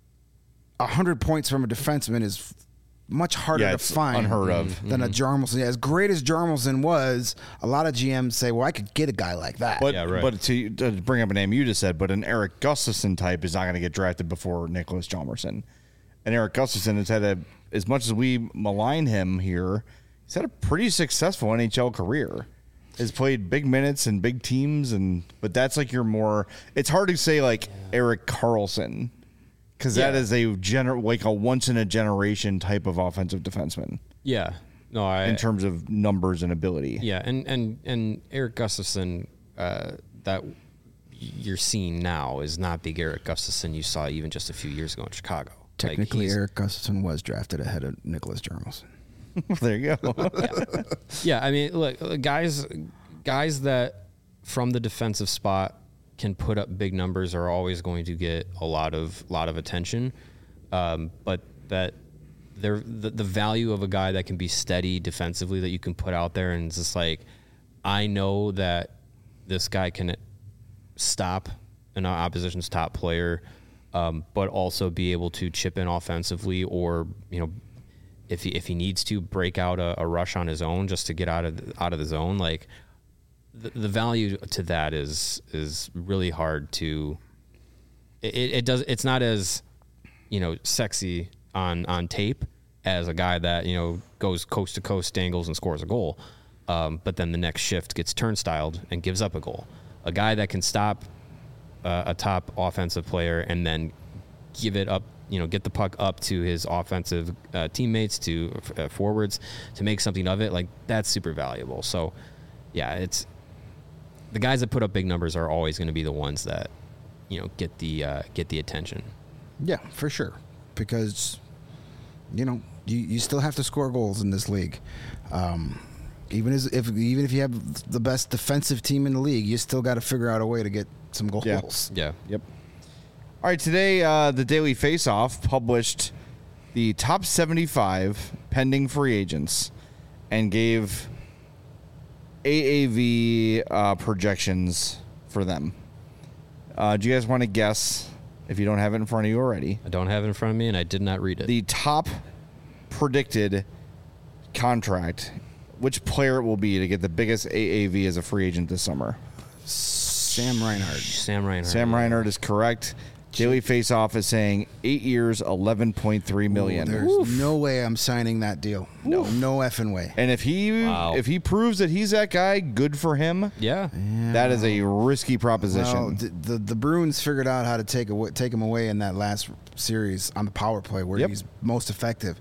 a hundred points from a defenseman is much harder Yeah, to it's find unheard of. than a Hjalmarsson. As great as Hjalmarsson was, a lot of G Ms say, "Well, I could get a guy like that." But Yeah, right. but to, to bring up a name you just said, but an Eric Gustafsson type is not going to get drafted before Nicholas Hjalmarsson. And Eric Gustafsson has had a, as much as we malign him here, he's had a pretty successful N H L career. Has played big minutes and big teams, and but that's like your more. It's hard to say like Eric Carlson because that Yeah. is a gener like a once in a generation type of offensive defenseman Yeah. No, I in terms of numbers and ability. Yeah, and and and Eric Gustafsson uh, that you're seeing now is not the Eric Gustafsson you saw even just a few years ago in Chicago. Like, Technically, he's- Eric Gustafsson was drafted ahead of Nicholas Hjalmarsson. There you go. Yeah, I mean, look, uh, guys, guys that from the defensive spot can put up big numbers are always going to get a lot of lot of attention, um, but that they're the, the value of a guy that can be steady defensively that you can put out there and it's just like, I know that this guy can stop an opposition's top player, um, but also be able to chip in offensively or you know. If he if he needs to break out a, a rush on his own just to get out of the, out of the zone, like the, the value to that is is really hard to. It, it does. It's not as you know, sexy on on tape as a guy that, you know, goes coast to coast, dangles, and scores a goal. Um, but then the next shift gets turnstiled and gives up a goal. A guy that can stop uh, a top offensive player and then give it up, you know, get the puck up to his offensive uh, teammates, to uh, forwards, to make something of it, like, that's super valuable. So, yeah, it's the guys that put up big numbers are always going to be the ones that, you know, get the uh, get the attention. Yeah, for sure. Because, you know, you, you still have to score goals in this league. Um, even as if even if you have the best defensive team in the league, you still got to figure out a way to get some goals. Yeah. Yeah. Yep. All right, today uh, the Daily Faceoff published the top seventy-five pending free agents and gave A A V uh, projections for them. Uh, do you guys want to guess, if you don't have it in front of you already, I don't have it in front of me, and I did not read it. the top predicted contract, which player it will be to get the biggest A A V as a free agent this summer? Sam Reinhart. Sam Reinhart. Sam Reinhart is correct. Daily Faceoff is saying eight years, eleven point three million. Ooh, there's Oof. no way I'm signing that deal. No, no effing way. And if he Wow. if he proves that he's that guy, good for him. Yeah. That is a risky proposition. Well, the, the the Bruins figured out how to take away, take him away in that last series on the power play where Yep. he's most effective.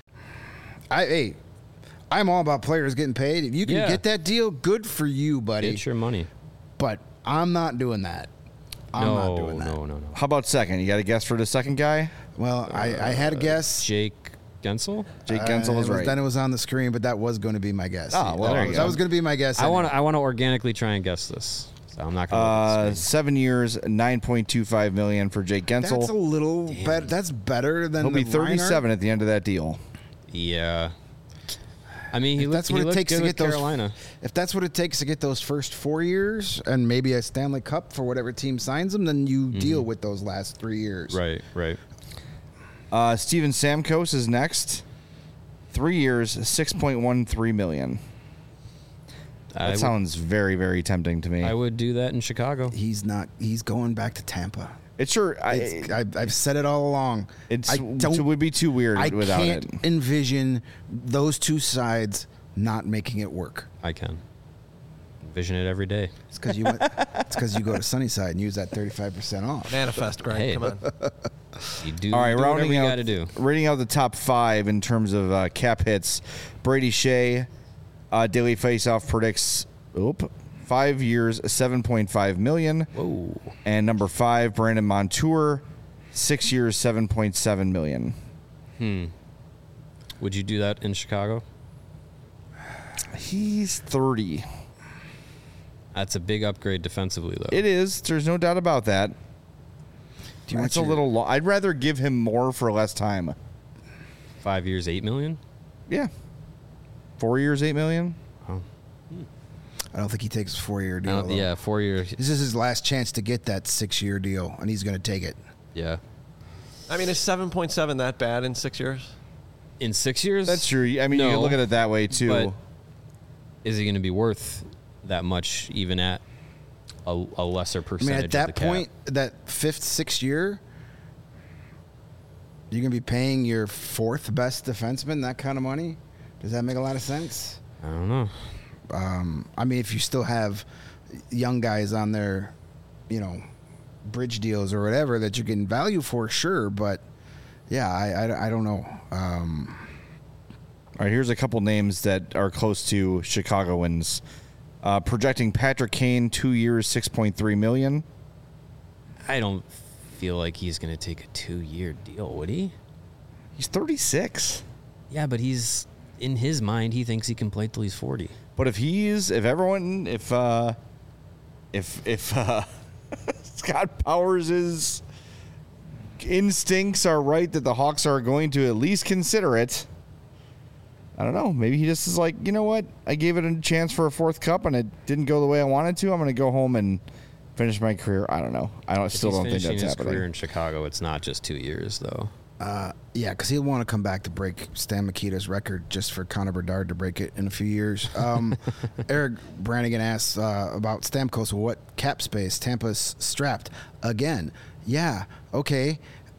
I hey, I'm all about players getting paid. If you can Yeah. get that deal, good for you, buddy. It's your money. But I'm not doing that. I'm no, not doing that. no, no, no. How about second? You got a guess for the second guy? Well, I, I had a guess. Jake Gensel? Jake Uh, Gensel it is was- right. Then it was on the screen, but that was going to be my guess. Oh, well, that there was, you that go. was going to be my guess. I anyway. want to I want to organically try and guess this. So I'm not going Uh, to seven years, nine point two five million for Jake That's a Gensel. little better. That's better than He'll be the Reinhart. thirty-seven at the end of that deal. Yeah. I mean, he If looked, that's what he it looked takes good to with get those. Carolina. If that's what it takes to get those first four years and maybe a Stanley Cup for whatever team signs him, then you deal with those last three years. Right, right. Uh, Steven Stamkos is next. Three years, six point one three million. That I would, sounds very, very tempting to me. I would do that in Chicago. He's not. He's going back to Tampa. It's sure. I, It's, I've, I've said it all along. it's I don't. it would be too weird I without can't it. envision those two sides not making it work. I can. Vision it every day. It's because you. Went, it's because you go to Sunnyside and use that thirty-five percent off. Manifest, Greg. Hey. Come on. You do, All right, do whatever rounding you out, got to do. rating out the top five in terms of uh, cap hits. Brady Shea, uh, Daily Faceoff predicts, oop, five years, seven point five million. Whoa. And number five, Brandon Montour, six years, seven point seven million. Hmm. Would you do that in Chicago? He's thirty. That's a big upgrade defensively, though. It is. There's no doubt about that. Do you want That's a your- little. Lo- I'd rather give him more for less time. Five years, eight million. Yeah. Four years, eight million. Oh. I don't think he takes a four-year I deal. don't- though. yeah, four years. This is his last chance to get that six-year deal, and he's going to take it. Yeah. I mean, is seven point seven that bad in six years? In six years. That's true. I mean, you No, can look at it that way too. but is he going to be worth that much, even at a, a lesser I mean, percentage? at that of the cap? point, that fifth, sixth year, you're going to be paying your fourth best defenseman that kind of money. Does that make a lot of sense? I don't know. Um, I mean, if you still have young guys on their, you know, bridge deals or whatever that you're getting value for, sure. But yeah, I, I, I don't know. Um, All right, here's a couple names that are close to Chicagoans. Uh, projecting Patrick Kane, two years, six point three million. I don't feel like he's going to take a two-year deal, would he? He's thirty-six. Yeah, but he's in his mind. He thinks he can play till he's forty. But if he's, if everyone, if uh, if if uh, Scott Powers' instincts are right that the Hawks are going to at least consider it, I don't know. Maybe he just is like, you know what? I gave it a chance for a fourth cup and it didn't go the way I wanted to. I'm going to go home and finish my career. I don't know. I don't, If still he's don't think finishing that's his career happening. in Chicago, it's not just two years, though. uh, yeah, because he'll want to come back to break Stan Mikita's record just for Connor Bedard to break it in a few years. Um, Eric Brannigan asks uh, about Stamkos. What cap space? Tampa's strapped again. Yeah, okay.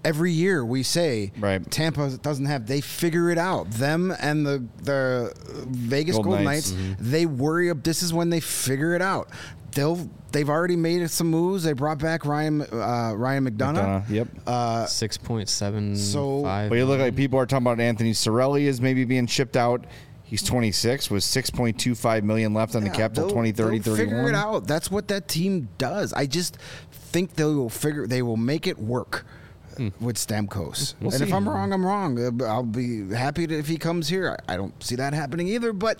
every year we say Right. Tampa doesn't have. They figure it out. Them and the the Vegas Golden Golden Knights. Knights. They worry. ab- This is when they figure it out. They'll. They've already made some moves. They brought back Ryan uh, Ryan McDonough. McDonough, yep. Uh, Six point seven So- five. But you look like people are talking about Anthony Cirelli is maybe being shipped out. He's twenty-six with six point two five million left on the yeah, cap till they'll- twenty thirty, they'll Figure it thirty-one. out. That's what that team does. I just think they will figure. They will make it work. With Stamkos, We'll and if see. I'm wrong, I'm wrong. Uh, I'll be happy to, if he comes here. I, I don't see that happening either. But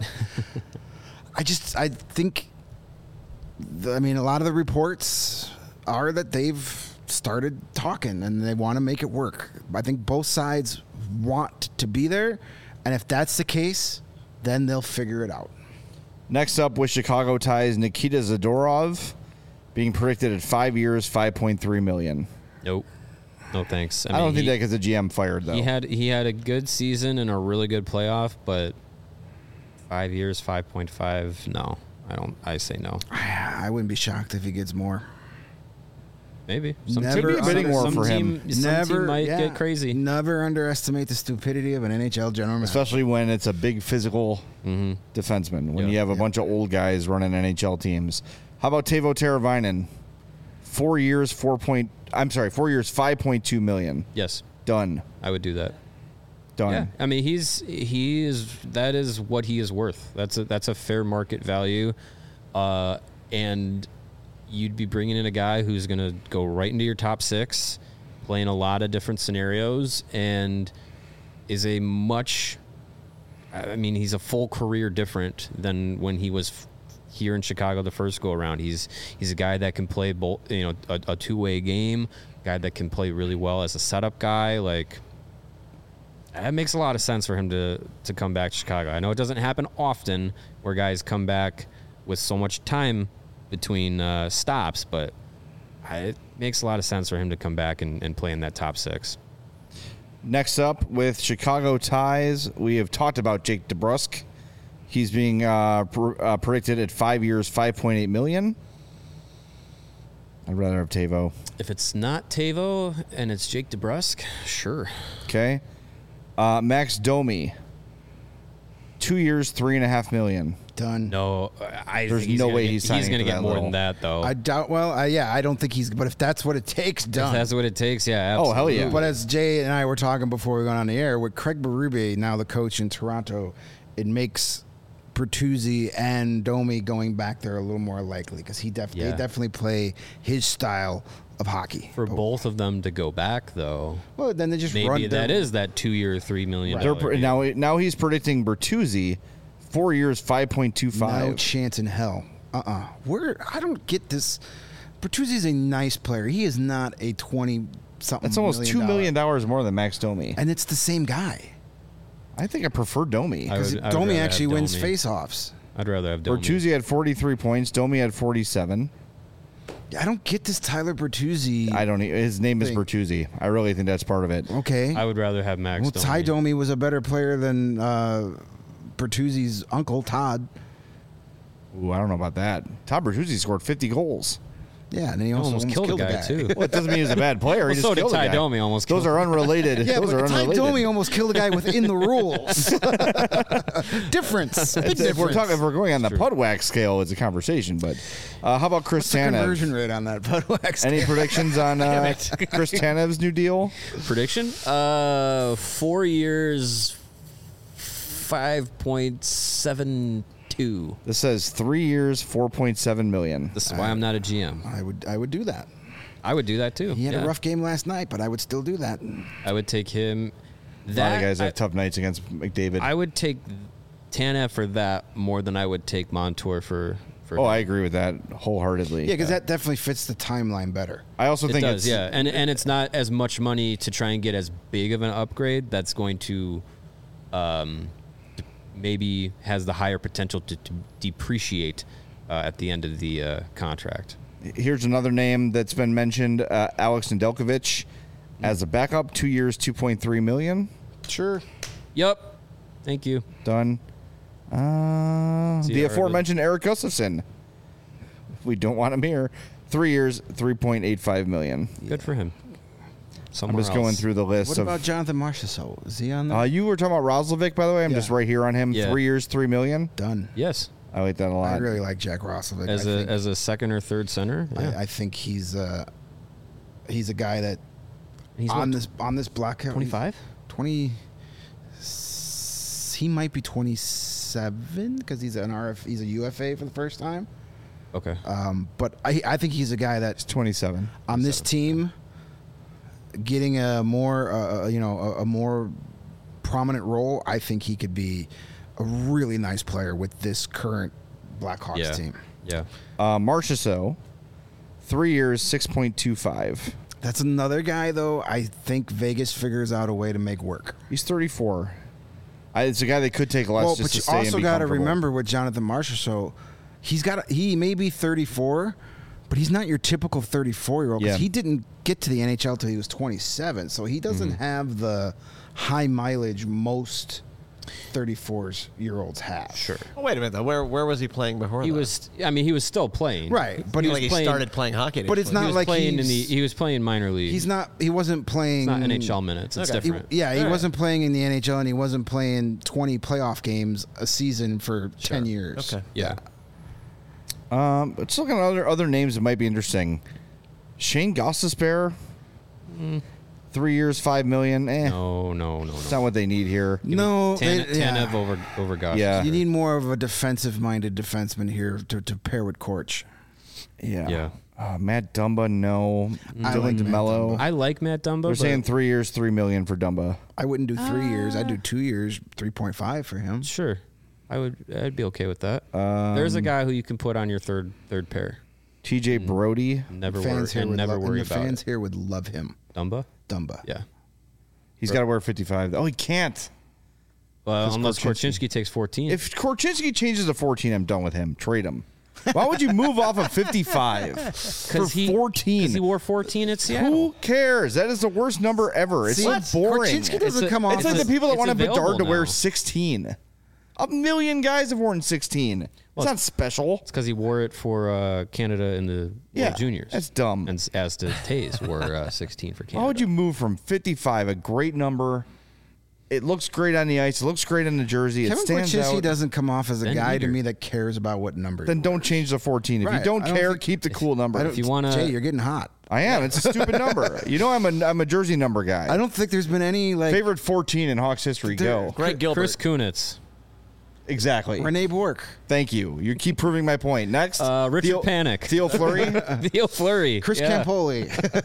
I just I think. The, I mean, a lot of the reports are that they've started talking and they want to make it work. I think both sides want to be there, and if that's the case, then they'll figure it out. Next up with Chicago ties, Nikita Zadorov being predicted at five years, five point three million. Nope. No thanks. I, don't mean, think he, that gets the G M fired though. he had he had a good season and a really good playoff, but five years, five point five. No, I don't. I say no. I wouldn't be shocked if he gets more. Maybe some Never team, Could be a bidding some war for team, him. Some Never team might yeah, get crazy. Never underestimate the stupidity of an N H L general manager. Especially when it's a big physical Mm-hmm. defenseman. When Yeah. you have a Yeah. bunch of old guys running N H L teams. How about Teuvo Teravainen? Four years, four point. I'm sorry, four years, five point two million. Yes, Done. I would do that. Done. Yeah, I mean he's he is that is what he is worth. That's a that's a fair market value, uh, and you'd be bringing in a guy who's going to go right into your top six, playing a lot of different scenarios, and is a much. I mean, he's a full career different than when he was f- here in Chicago the first go around. He's he's a guy that can play both, you know, a, a two way game. Guy that can play really well as a setup guy. Like, it makes a lot of sense for him to to come back to Chicago. I know it doesn't happen often where guys come back with so much time between uh, stops, but I, it makes a lot of sense for him to come back and, and play in that top six. Next up with Chicago ties, we have talked about Jake DeBrusk. He's being uh, pr- uh, predicted at five years, five point eight million. I'd rather have Teuvo. If it's not Teuvo and it's Jake DeBrusk, sure. Okay. Uh, Max Domi. Two years, three and a half million. Done. No, I There's think he's no gonna way get, he's signing going to for get that more little. than that, though. I doubt. Well, uh, yeah, I don't think he's. But if that's what it takes, if done. that's what it takes, yeah. Oh, hell yeah. absolutely. But as Jay and I were talking before we went on the air, with Craig Berube, now the coach in Toronto, it makes Bertuzzi and Domi going back there a little more likely because he def- Yeah. they definitely play his style of hockey. For But- both of them to go back, though, well, then they just maybe run. that their- is that two-year, three million They're dollar pr- deal. now, now he's predicting Bertuzzi, four years, five point two no five. chance in hell. Uh uh Where I don't get this. Bertuzzi's a nice player. He is not a twenty something. That's almost million two dollar- million dollars more than Max Domi. and it's the same guy. I think I prefer Domi. I Because would- I would Domi rather have actually wins Domi. face-offs. I'd rather have Domi. Bertuzzi had forty-three points. Domi had forty-seven. I don't get this Tyler Bertuzzi. I don't. e- His name is Thing. Bertuzzi. I really think that's part of it. Okay. I would rather have Max. Well, Domi. Ty Domi was a better player than uh, Bertuzzi's uncle, Todd. Ooh, I don't know about that. Todd Bertuzzi scored fifty goals. Yeah, and then he He also almost, killed, a guy, too. Well, it doesn't mean he's a bad player. Well, he just so did killed a Ty guy. Domi almost Those killed are unrelated. Yeah, Those but are Ty unrelated. Domi almost killed a guy within the rules. difference. Big if difference. we're talking, if we're going on the Pudwack scale, it's a conversation. But uh, how about Chris What's the Tanev? conversion rate on that Budweiser? Any predictions on uh, Chris Tanev's new deal? Prediction? Uh, four years, five point seven two. This says three years, four point seven million. This is why I'm not a G M. I would I would do that. I would do that too. He had yeah. a rough game last night, but I would still do that. I would take him. A lot That of guys I, have tough nights against McDavid. I would take Tanev for that more than I would take Montour for. for oh, I agree with that wholeheartedly. Yeah, because that definitely fits the timeline better. I also It think does, it's yeah, and and it's not as much money to try and get as big of an upgrade. That's going to, um, maybe has the higher potential to, to depreciate uh, at the end of the uh, contract. Here's another name that's been mentioned: uh, Alex Nedeljkovic as a backup, two years, two point three million. Sure. Yep, thank you. Done. Uh, See, the I aforementioned Eric Gustafsson. We don't want him here. Three years, three point eight five million. Good for him. somewhere I'm just else. going through the list What of. about Jonathan Marchessault? Is he on there? Uh, you were talking about Roslovic, by the way. I'm Yeah. just right here on him. Yeah. Three years, three million. Done. Yes, I like that a lot. I really like Jack Roslovic. as I a think, as a second or third center. Yeah. I, I think he's uh, he's a guy that He's on what, this on this blackout. twenty-five. twenty. He might be twenty-seven because he's an R F. He's a U F A for the first time. Okay. Um, but I I think he's a guy that It's twenty-seven. on this team getting a more uh, you know a, a more prominent role. I think he could be a really nice player with this current Blackhawks yeah. team. Yeah. Uh, Marchessault, three years, six point two five. That's another guy though. I think Vegas figures out a way to make work. He's thirty-four. I, it's a guy that could take less Well, just but to you stay and also be got to comfortable. remember with Jonathan Marchessault, he's got a, he may be thirty-four, but he's not your typical thirty-four year old because Yeah. he didn't get to the N H L till he was twenty-seven, so he doesn't Mm-hmm. have the high mileage most thirty-four year olds have. Sure. Oh, wait a minute though. Where where was he playing before? He that? was. I mean, he was still playing. Right, But but he, he was like he playing- started playing hockey. at but age it's He not was like playing in the. he's- He was playing minor league. he's not. He wasn't playing. It's not N H L minutes. It's Okay. He- different. yeah, he All right. wasn't playing in the N H L, and he wasn't playing twenty playoff games a season for ten years. Okay. Yeah. Um, let's look at other other names that might be interesting. Shane Gostisbehere, three years, five million. Eh, No, no, no, it's no. not what they need here. No, Tan- they- yeah. Tanev over over Gosh. Yeah. You need more of a defensive-minded defenseman here to, to pair with Korch. Yeah. Yeah. Uh, Matt Dumba, no. I Dylan like Matt DeMello. I like Matt Dumba. They're but saying three years, three million for Dumba. I wouldn't do three years. I'd do two years, three point five for him. sure, I would. I'd be okay with that. Um, There's a guy who you can put on your third third pair. T J Brody, Never worry Fans here and would never love, worry and the about fans it. here would love him. Dumba. Dumba. Yeah. he's got to wear fifty-five. Oh, he can't. Well, Because unless Korchinski. Korchinski takes fourteen. If Korchinski changes to fourteen, I'm done with him. Trade him. Why would you move off of fifty-five for he, fourteen? Because he wore fourteen at Seattle. Who cares? That is the worst number ever. It's See, so boring. Korchinski doesn't It's a- come off. It's like It's the people that it's want Bedard available to wear now. sixteen. A million guys have worn sixteen. It's not special. It's because he wore it for uh, Canada in the World Yeah, Juniors. that's dumb. And s- as did Taze wore uh, sixteen for Canada. Why would you move from fifty-five, a great number? It looks great on the ice. It looks great on the jersey. It Kevin stands Korchinski out. doesn't come off as a Ben guy to Eater. me that cares about what number. Then don't change the fourteen. If Right. you don't I don't care, think- keep the cool number. I don't, If you wanna- Jay, you're getting hot. I am. It's a stupid number. You know, I'm a I'm a jersey number guy. I don't think there's been any like Favorite fourteen in Hawks history. There- Go. Greg Gilbert. Chris Kunitz. Exactly. Renee Bork, Thank you. You keep proving my point. Next, Uh, Richard Theo, Panik. Theo Fleury. Theo Fleury. Chris yeah. Campoli.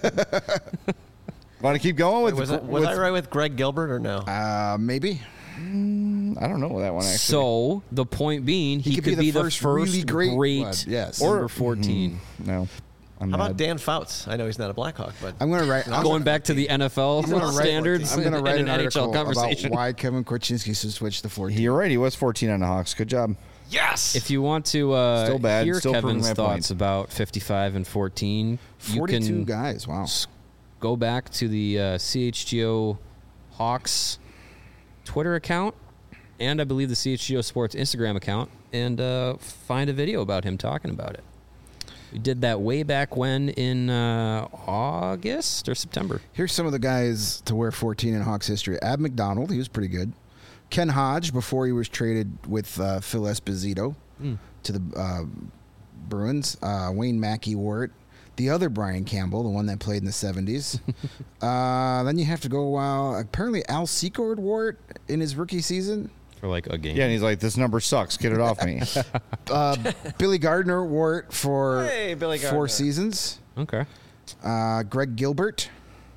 Want to keep going with? was I, was with I right with Greg Gilbert or no? uh, maybe I don't know that one actually. So the point being, he, He could be the first really great one, yes. number Or- fourteen. no. I'm How mad. about Dan Fouts? I know he's not a Blackhawk, but I'm gonna write. I'm Going back to the N F L I'm gonna write- standards I'm gonna and write an an N H L article about conversation. why Kevin Korchinski should switch to fourteen. You're right. He was fourteen on the Hawks. Good job. yes. If you want to uh, Still bad, hear still proving Kevin's my thoughts point. about fifty-five and fourteen, you Forty-two can guys. Wow. go back to the uh, C H G O Hawks Twitter account and I believe the C H G O Sports Instagram account and uh, find a video about him talking about it. We did that way back when in uh, August or September. Here's some of the guys to wear fourteen in Hawks history. Ab McDonald, he was pretty good. Ken Hodge, before he was traded with uh, Phil Esposito to the uh, Bruins. Uh, Wayne Mackey wore it. The other Brian Campbell, the one that played in the seventies. uh, then you have to go, wow. Apparently Al Secord wore it in his rookie season. For like a game. Yeah, and he's like, "This number sucks. Get it off me." Uh, Billy Gardner wore it for Hey, Billy four Gardner. seasons. Okay. Uh, Greg Gilbert,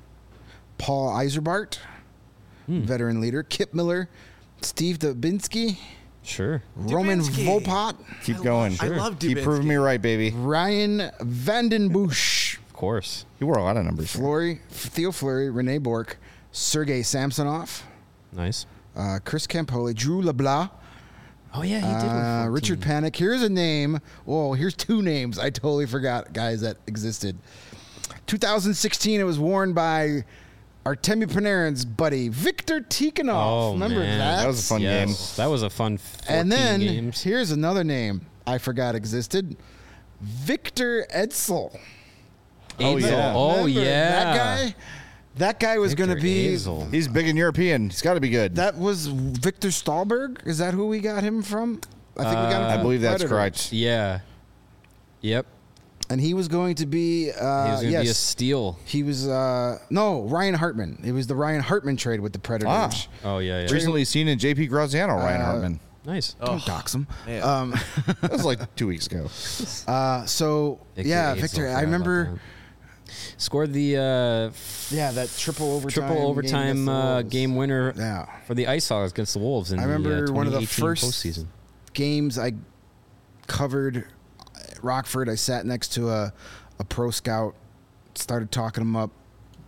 Paul Eiserbart, veteran leader, Kip Miller, Steve Dubinsky, Sure. Roman Dubinsky. Volpot, Keep I going. love- I love Keep Dubinsky. proving me right, baby. Ryan Vandenbush, Of course. You wore a lot of numbers. Fleury, Theo Fleury, Rene Bork, Sergei Samsonov, Nice. uh, Chris Campoli, Drew LeBlanc, Oh, yeah, he did. uh, Richard Panik. Here's a name. Oh, here's two names I totally forgot, guys, that existed. twenty sixteen, it was worn by Artemi Panarin's buddy, Victor Tikhonov. Oh, Remember man. that? That was a fun game. Yes, that was a fun fourteen And then games. here's another name I forgot existed. Victor Edsel. Oh, Edsel. yeah. Oh, Remember yeah. that guy? That guy was going to Victor be. Azel. He's big and European. He's got to be good. That was Victor Stahlberg. Is that who we got him from? I think we got him. I From believe that's Predators. correct. Yeah. Yep. And he was going to be. Uh, He was going to yes, be a steal. he was. Uh, no, Ryan Hartman. It was the Ryan Hartman trade with the Predators. Ah. Oh, yeah, yeah. Recently seen in J P Graziano, Ryan Uh, Hartman. Nice. Don't dox him. man. Um, That was like two weeks ago. uh, so Victor yeah, Azel, Victor. forgot I about remember. that. Scored the uh, Yeah, that triple overtime. triple game overtime against the uh, Wolves. game winner Yeah. for the Ice Hogs against the Wolves in I remember the uh, one of the twenty eighteen first postseason. games I covered at Rockford. I sat next to a, a pro scout, started talking him up.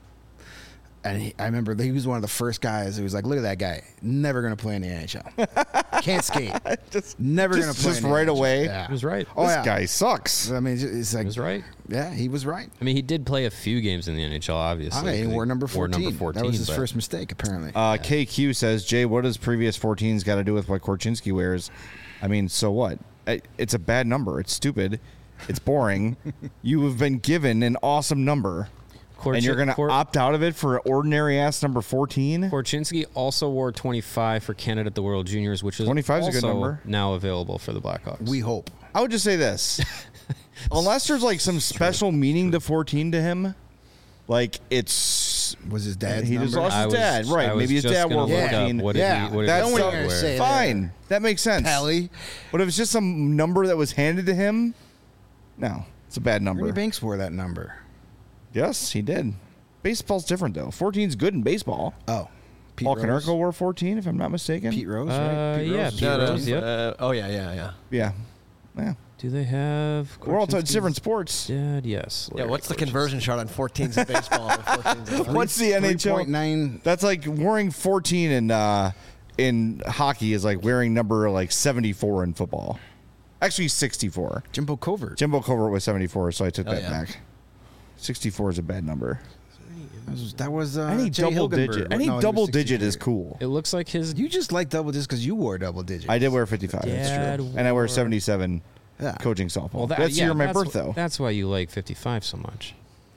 And he, I remember he was one of the first guys who was like, look at that guy. Never going to play in the N H L. Can't skate. Just, Never going to just, play just in the right N H L. away. Yeah. He was right. Oh, this yeah. guy sucks. I mean, it's like, He was right. yeah, he was right. I mean, he did play a few games in the N H L, obviously. Okay, he 'cause wore number wore fourteen. number fourteen. That was his but first mistake, apparently. Uh, K Q says, Jay, what does previous fourteens got to do with what Korchinski wears? I mean, so what? I- It's a bad number. It's stupid. It's boring. You have been given an awesome number, Korchin- and you're going to Kor- opt out of it for an ordinary ass number fourteen? Korchinski also wore twenty-five for Canada at the World Juniors, which is twenty-five is a good also number. now available for the Blackhawks. we hope. I would just say this. Unless there's like some special meaning to fourteen to him, like it's Was his dad's he just number? lost I his was- dad, right? I was Maybe his just dad gonna wore look up fourteen. What did Yeah, he, what did That's his what dad you're gonna wear? say. fine. That makes sense. Pelly. But if it's just some number that was handed to him, no, it's a bad number. Ernie Banks wore that number. Yes, he did. Baseball's different though. fourteen's good in baseball. Oh. Pete Paul Rose. Konerko wore fourteen, if I'm not mistaken. Pete Rose, Uh, right? Pete yeah, Rose. Pete No, no, Rose, yep. uh, oh yeah, yeah, yeah. Yeah, yeah. Do they have? We're all talking Korchinski's different sports. Dad, yes. Yeah, Larry what's the Korchinski. conversion chart on fourteens in baseball? and fourteens in What's the N H L? three point nine. That's like wearing fourteen in uh, in hockey is like wearing number like seventy-four in football. Actually, sixty-four. Jimbo Covert. Jimbo Covert was seventy-four, so I took Oh, that yeah. back. sixty-four is a bad number. That was, that was uh, Any Jay double Hilgenberg. digit, any No, he was double digit sixty-three. is cool. It looks like his You just like double just because you wore double digits. I did wear fifty-five. Dad That's true. And I wear wore- seventy-seven Yeah. coaching softball. Well, that, that's the yeah, year of my that's birth, wh- though. That's why you like fifty-five so much.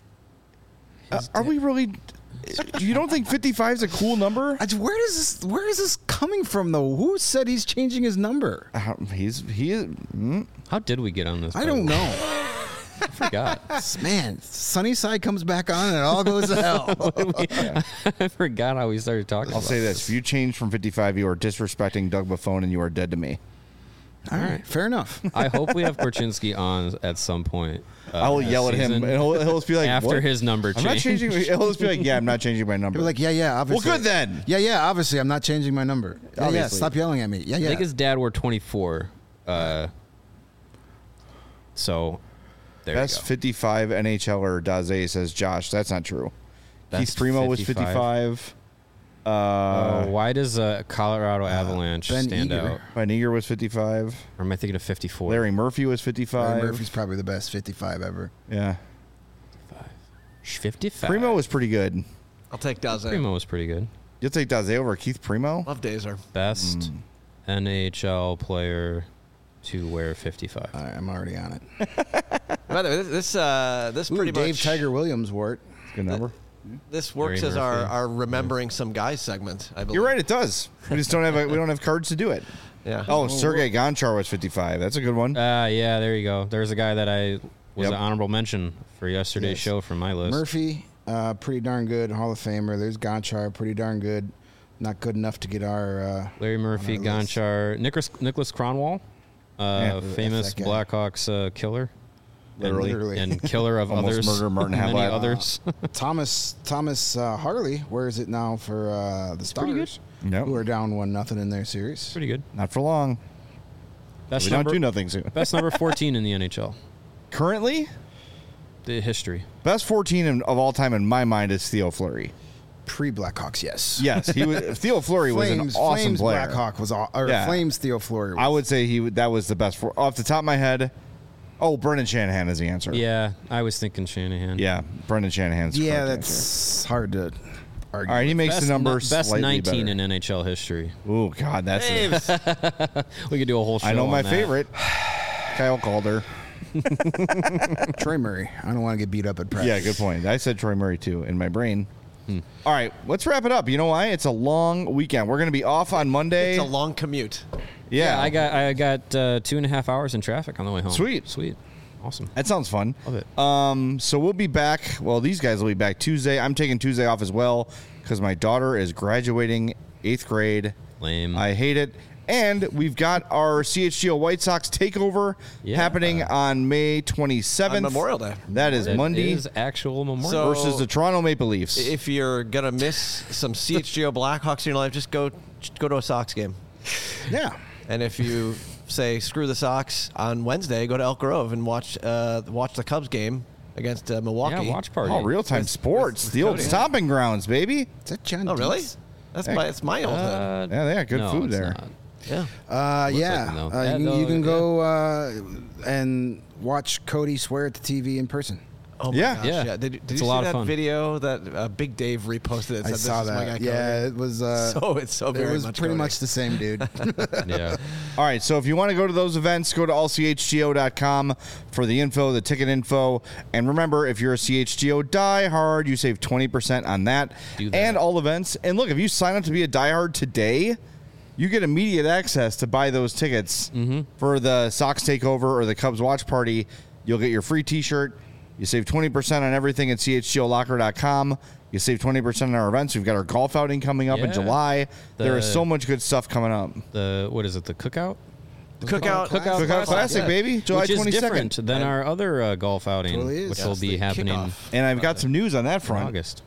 Uh, are we really? You don't think fifty-five is a cool number? I- Where does this? Where is this coming from, though? Who said he's changing his number? Uh, he's he is. Mm, How did we get on this? I by don't the way? know. I forgot. Man, Sunnyside comes back on and it all goes to hell. I forgot how we started talking. I'll about say this: if you change from fifty-five, you are disrespecting Doug Buffon, and you are dead to me. All right, fair enough. I hope we have Korchinski on at some point. Uh, I will this yell at him, season and he'll, he'll just be like, after "What? his number I'm not change. changing." He'll just be like, "Yeah, I'm not changing my number." He'll be like, yeah, yeah, obviously. Well, good then. Yeah, yeah, obviously, I'm not changing my number. Yeah, yeah, Obviously. stop yelling at me. Yeah, I yeah. think his dad wore twenty-four. Uh, so there Best you go. fifty-five NHLer Daze says Josh. That's not true. Best Keith Primo was fifty-five. fifty-five. Uh, Uh, why does uh, Colorado Avalanche Ben stand Eager. out? Van Eager was fifty-five. Or am I thinking of fifty-four? Larry Murphy was Larry fifty-five. Murphy's probably the best fifty-five ever. Yeah. fifty-five. Primo was pretty good. I'll take Daze. Primo was pretty good. You'll take Daze over Keith Primo? Love Dazer. Best Mm. N H L player to wear fifty-five. All right, I'm already on it. By the way, this this, uh, this Ooh, pretty Dave much Tiger Williams wore it. Good number. this works Larry as our, Murphy. our remembering some guys segment. I believe. You're right. It does. We just don't have a, we don't have cards to do it. Yeah. Oh, Sergei Gonchar was fifty-five. That's a good one. Uh, yeah, there you go. There's a guy that I was Yep. an honorable mention for yesterday's Yes. show from my list. Murphy, uh, pretty darn good. Hall of Famer. There's Gonchar, pretty darn good. Not good enough to get our. Uh, Larry Murphy, on our list. Gonchar, Nicholas, Nicholas Cronwall, uh, Yeah, famous that's that guy. Blackhawks uh, killer. Literally. Literally. And killer of Almost others. murdered Martin many Havlat. others. Thomas Thomas uh, Harley wears it now for uh, the Stars, pretty good. Yep. who are down one nothing in their series. Pretty good. Not for long. Best we number, don't do nothing soon. best number fourteen in the N H L. Currently, The history. best fourteen in, of all time in my mind is Theo Fleury. Pre Blackhawks, yes. Yes, he was. Theo Fleury was an Flames, awesome Flames player. Blackhawk was all, or Yeah. Flames Theo Fleury. Was. I would say he would- that was the best. For, off the top of my head, oh, Brendan Shanahan is the answer. Yeah, I was thinking Shanahan. Yeah, Brendan Shanahan's. the yeah, correct that's hard to argue. All right, he makes Best, the number nu- best slightly nineteen better. in N H L history. Oh God, that's it. We could do a whole show I know on my that. favorite, Kyle Calder. Troy Murray. I don't want to get beat up at practice. Yeah, good point. I said Troy Murray too in my brain. All right, let's wrap it up. You know why? It's a long weekend. We're going to be off on Monday. It's a long commute. yeah. Yeah, I got I got uh, two and a half hours in traffic on the way home. Sweet. Sweet. Awesome. That sounds fun. Love it. Um, so we'll be back. Well, these guys will be back Tuesday. I'm taking Tuesday off as well because my daughter is graduating eighth grade. Lame. I hate it. And we've got our C H G O White Sox takeover Yeah. happening on May twenty-seventh. On Memorial Day. That is That Monday is actual Memorial. So- versus the Toronto Maple Leafs. If you're gonna miss some C H G O Blackhawks in your life, just go just go to a Sox game. Yeah. And if you say screw the Sox on Wednesday, go to Elk Grove and watch uh, watch the Cubs game against uh, Milwaukee. yeah, watch party. Oh, real-time With- sports. with- with the old Cody. stomping grounds, baby. Is that John? Oh, really? Dietz? That's Hey. my it's my old hood. Uh, Yeah, they got good no, food it's there. not. Yeah. Uh, Looks yeah. like no. Uh, Yeah, you, can, no, you can yeah. go uh, and watch Cody swear at the T V in person. Oh my Yeah. gosh, Yeah. yeah. Did, did It's you a see lot of that fun. video that uh, Big Dave reposted? It I said, saw this Is my that. guy Yeah, Cody. it was. Uh, So it's so it very was much pretty Cody. much the same dude. Yeah. All right, so if you want to go to those events, go to all c h g o dot com for the info, the ticket info. And remember, if you're a C H G O diehard, you save twenty percent on that, Do that. and all events. And look, if you sign up to be a diehard today, you get immediate access to buy those tickets for the Sox Takeover or the Cubs Watch Party. You'll get your free T-shirt. You save twenty percent on everything at c h g o locker dot com. You save twenty percent on our events. We've got our golf outing coming up in Yeah. July. there is The- so much good stuff coming up. The what is it? The cookout. Cookout, Cookout Cookout Classic, Classic, yeah. baby, July Which is twenty-second. different than our other uh, golf outing, Totally is. which Yes, will be the happening kickoff. And I've got some news on that in front. August.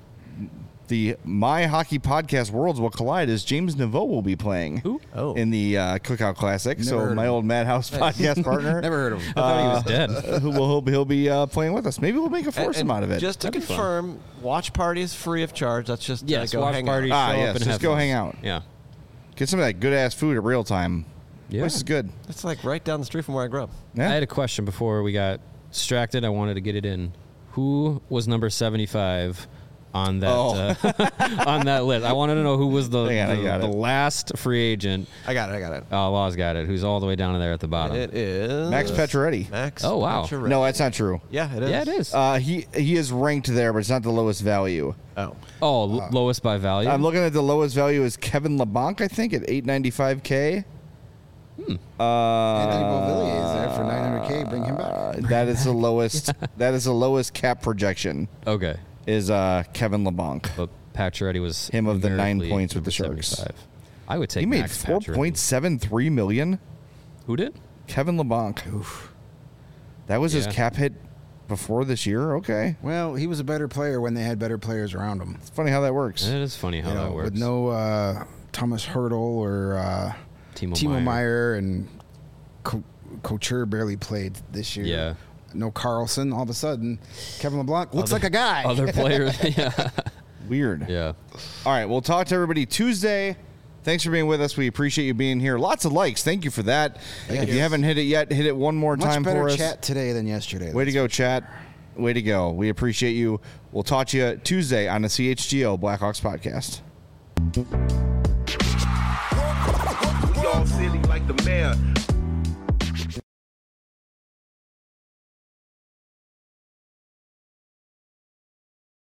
The My Hockey Podcast Worlds Will Collide as James Naveau will be playing Who? Oh. in the uh, Cookout Classic. Never so heard my of old Madhouse podcast partner, Never heard of him. I thought he was dead. uh, who will he'll, be- he'll be uh, playing with us. Maybe we'll make a And- foursome and out of it. Just to That'd be fun. confirm, watch party is free of charge. That's just Yes, uh, go watch hang party. out. Ah, show yes, up and just have go fun. hang out. Yeah. Get some of that good ass food at real time. Yeah. This is good. It's like right down the street from where I grew up. Yeah. I had a question before we got distracted. I wanted to get it in. Who was number seventy-five on that Oh. uh, on that list? I wanted to know who was the, Hang on, I the, got the it. last free agent. I got it. I got it. Oh, Law's got it. Who's all the way down there at the bottom? It is Max Pacioretty. Max. Oh, wow. Pacioretty. No, that's not true. Yeah, it is. Yeah, it is. Uh, he he is ranked there, but it's not the lowest value. Oh, oh, l- lowest by value. I'm looking at the lowest value is Kevin LeBlanc, I think, at eight ninety-five K. Hmm. Uh, Anthony Beauvillier is there for nine hundred K. Bring him Uh, back. that is the lowest. That is the lowest cap projection. okay. Is uh, Kevin LeBlanc. But Pacioretty was Him of the nine numerically points with the number Sharks. seventy-five. I would take He made Max four Pacioretty. point seven three million. Who did? Kevin LeBlanc. Oof. That was his Yeah. cap hit before this year. Okay, Well, he was a better player when they had better players around him. it's funny how that works. It is funny how You know, that works. with no uh, Thomas Hurdle or uh, Timo, Timo Meyer. Meyer and Co- Couture barely played this year. Yeah. No Carlson. All of a sudden, Kevin LeBlanc looks Other- like a guy. Other players. yeah. Weird. Yeah. All right, we'll talk to everybody Tuesday. Thanks for being with us. We appreciate you being here. Lots of likes. Thank you for that. if you haven't hit it yet, hit it one more Much time better for us. chat today than yesterday. Way to go, chat. Way to go. We appreciate you. We'll talk to you Tuesday on the C H G O Blackhawks podcast. We all silly like the mayor.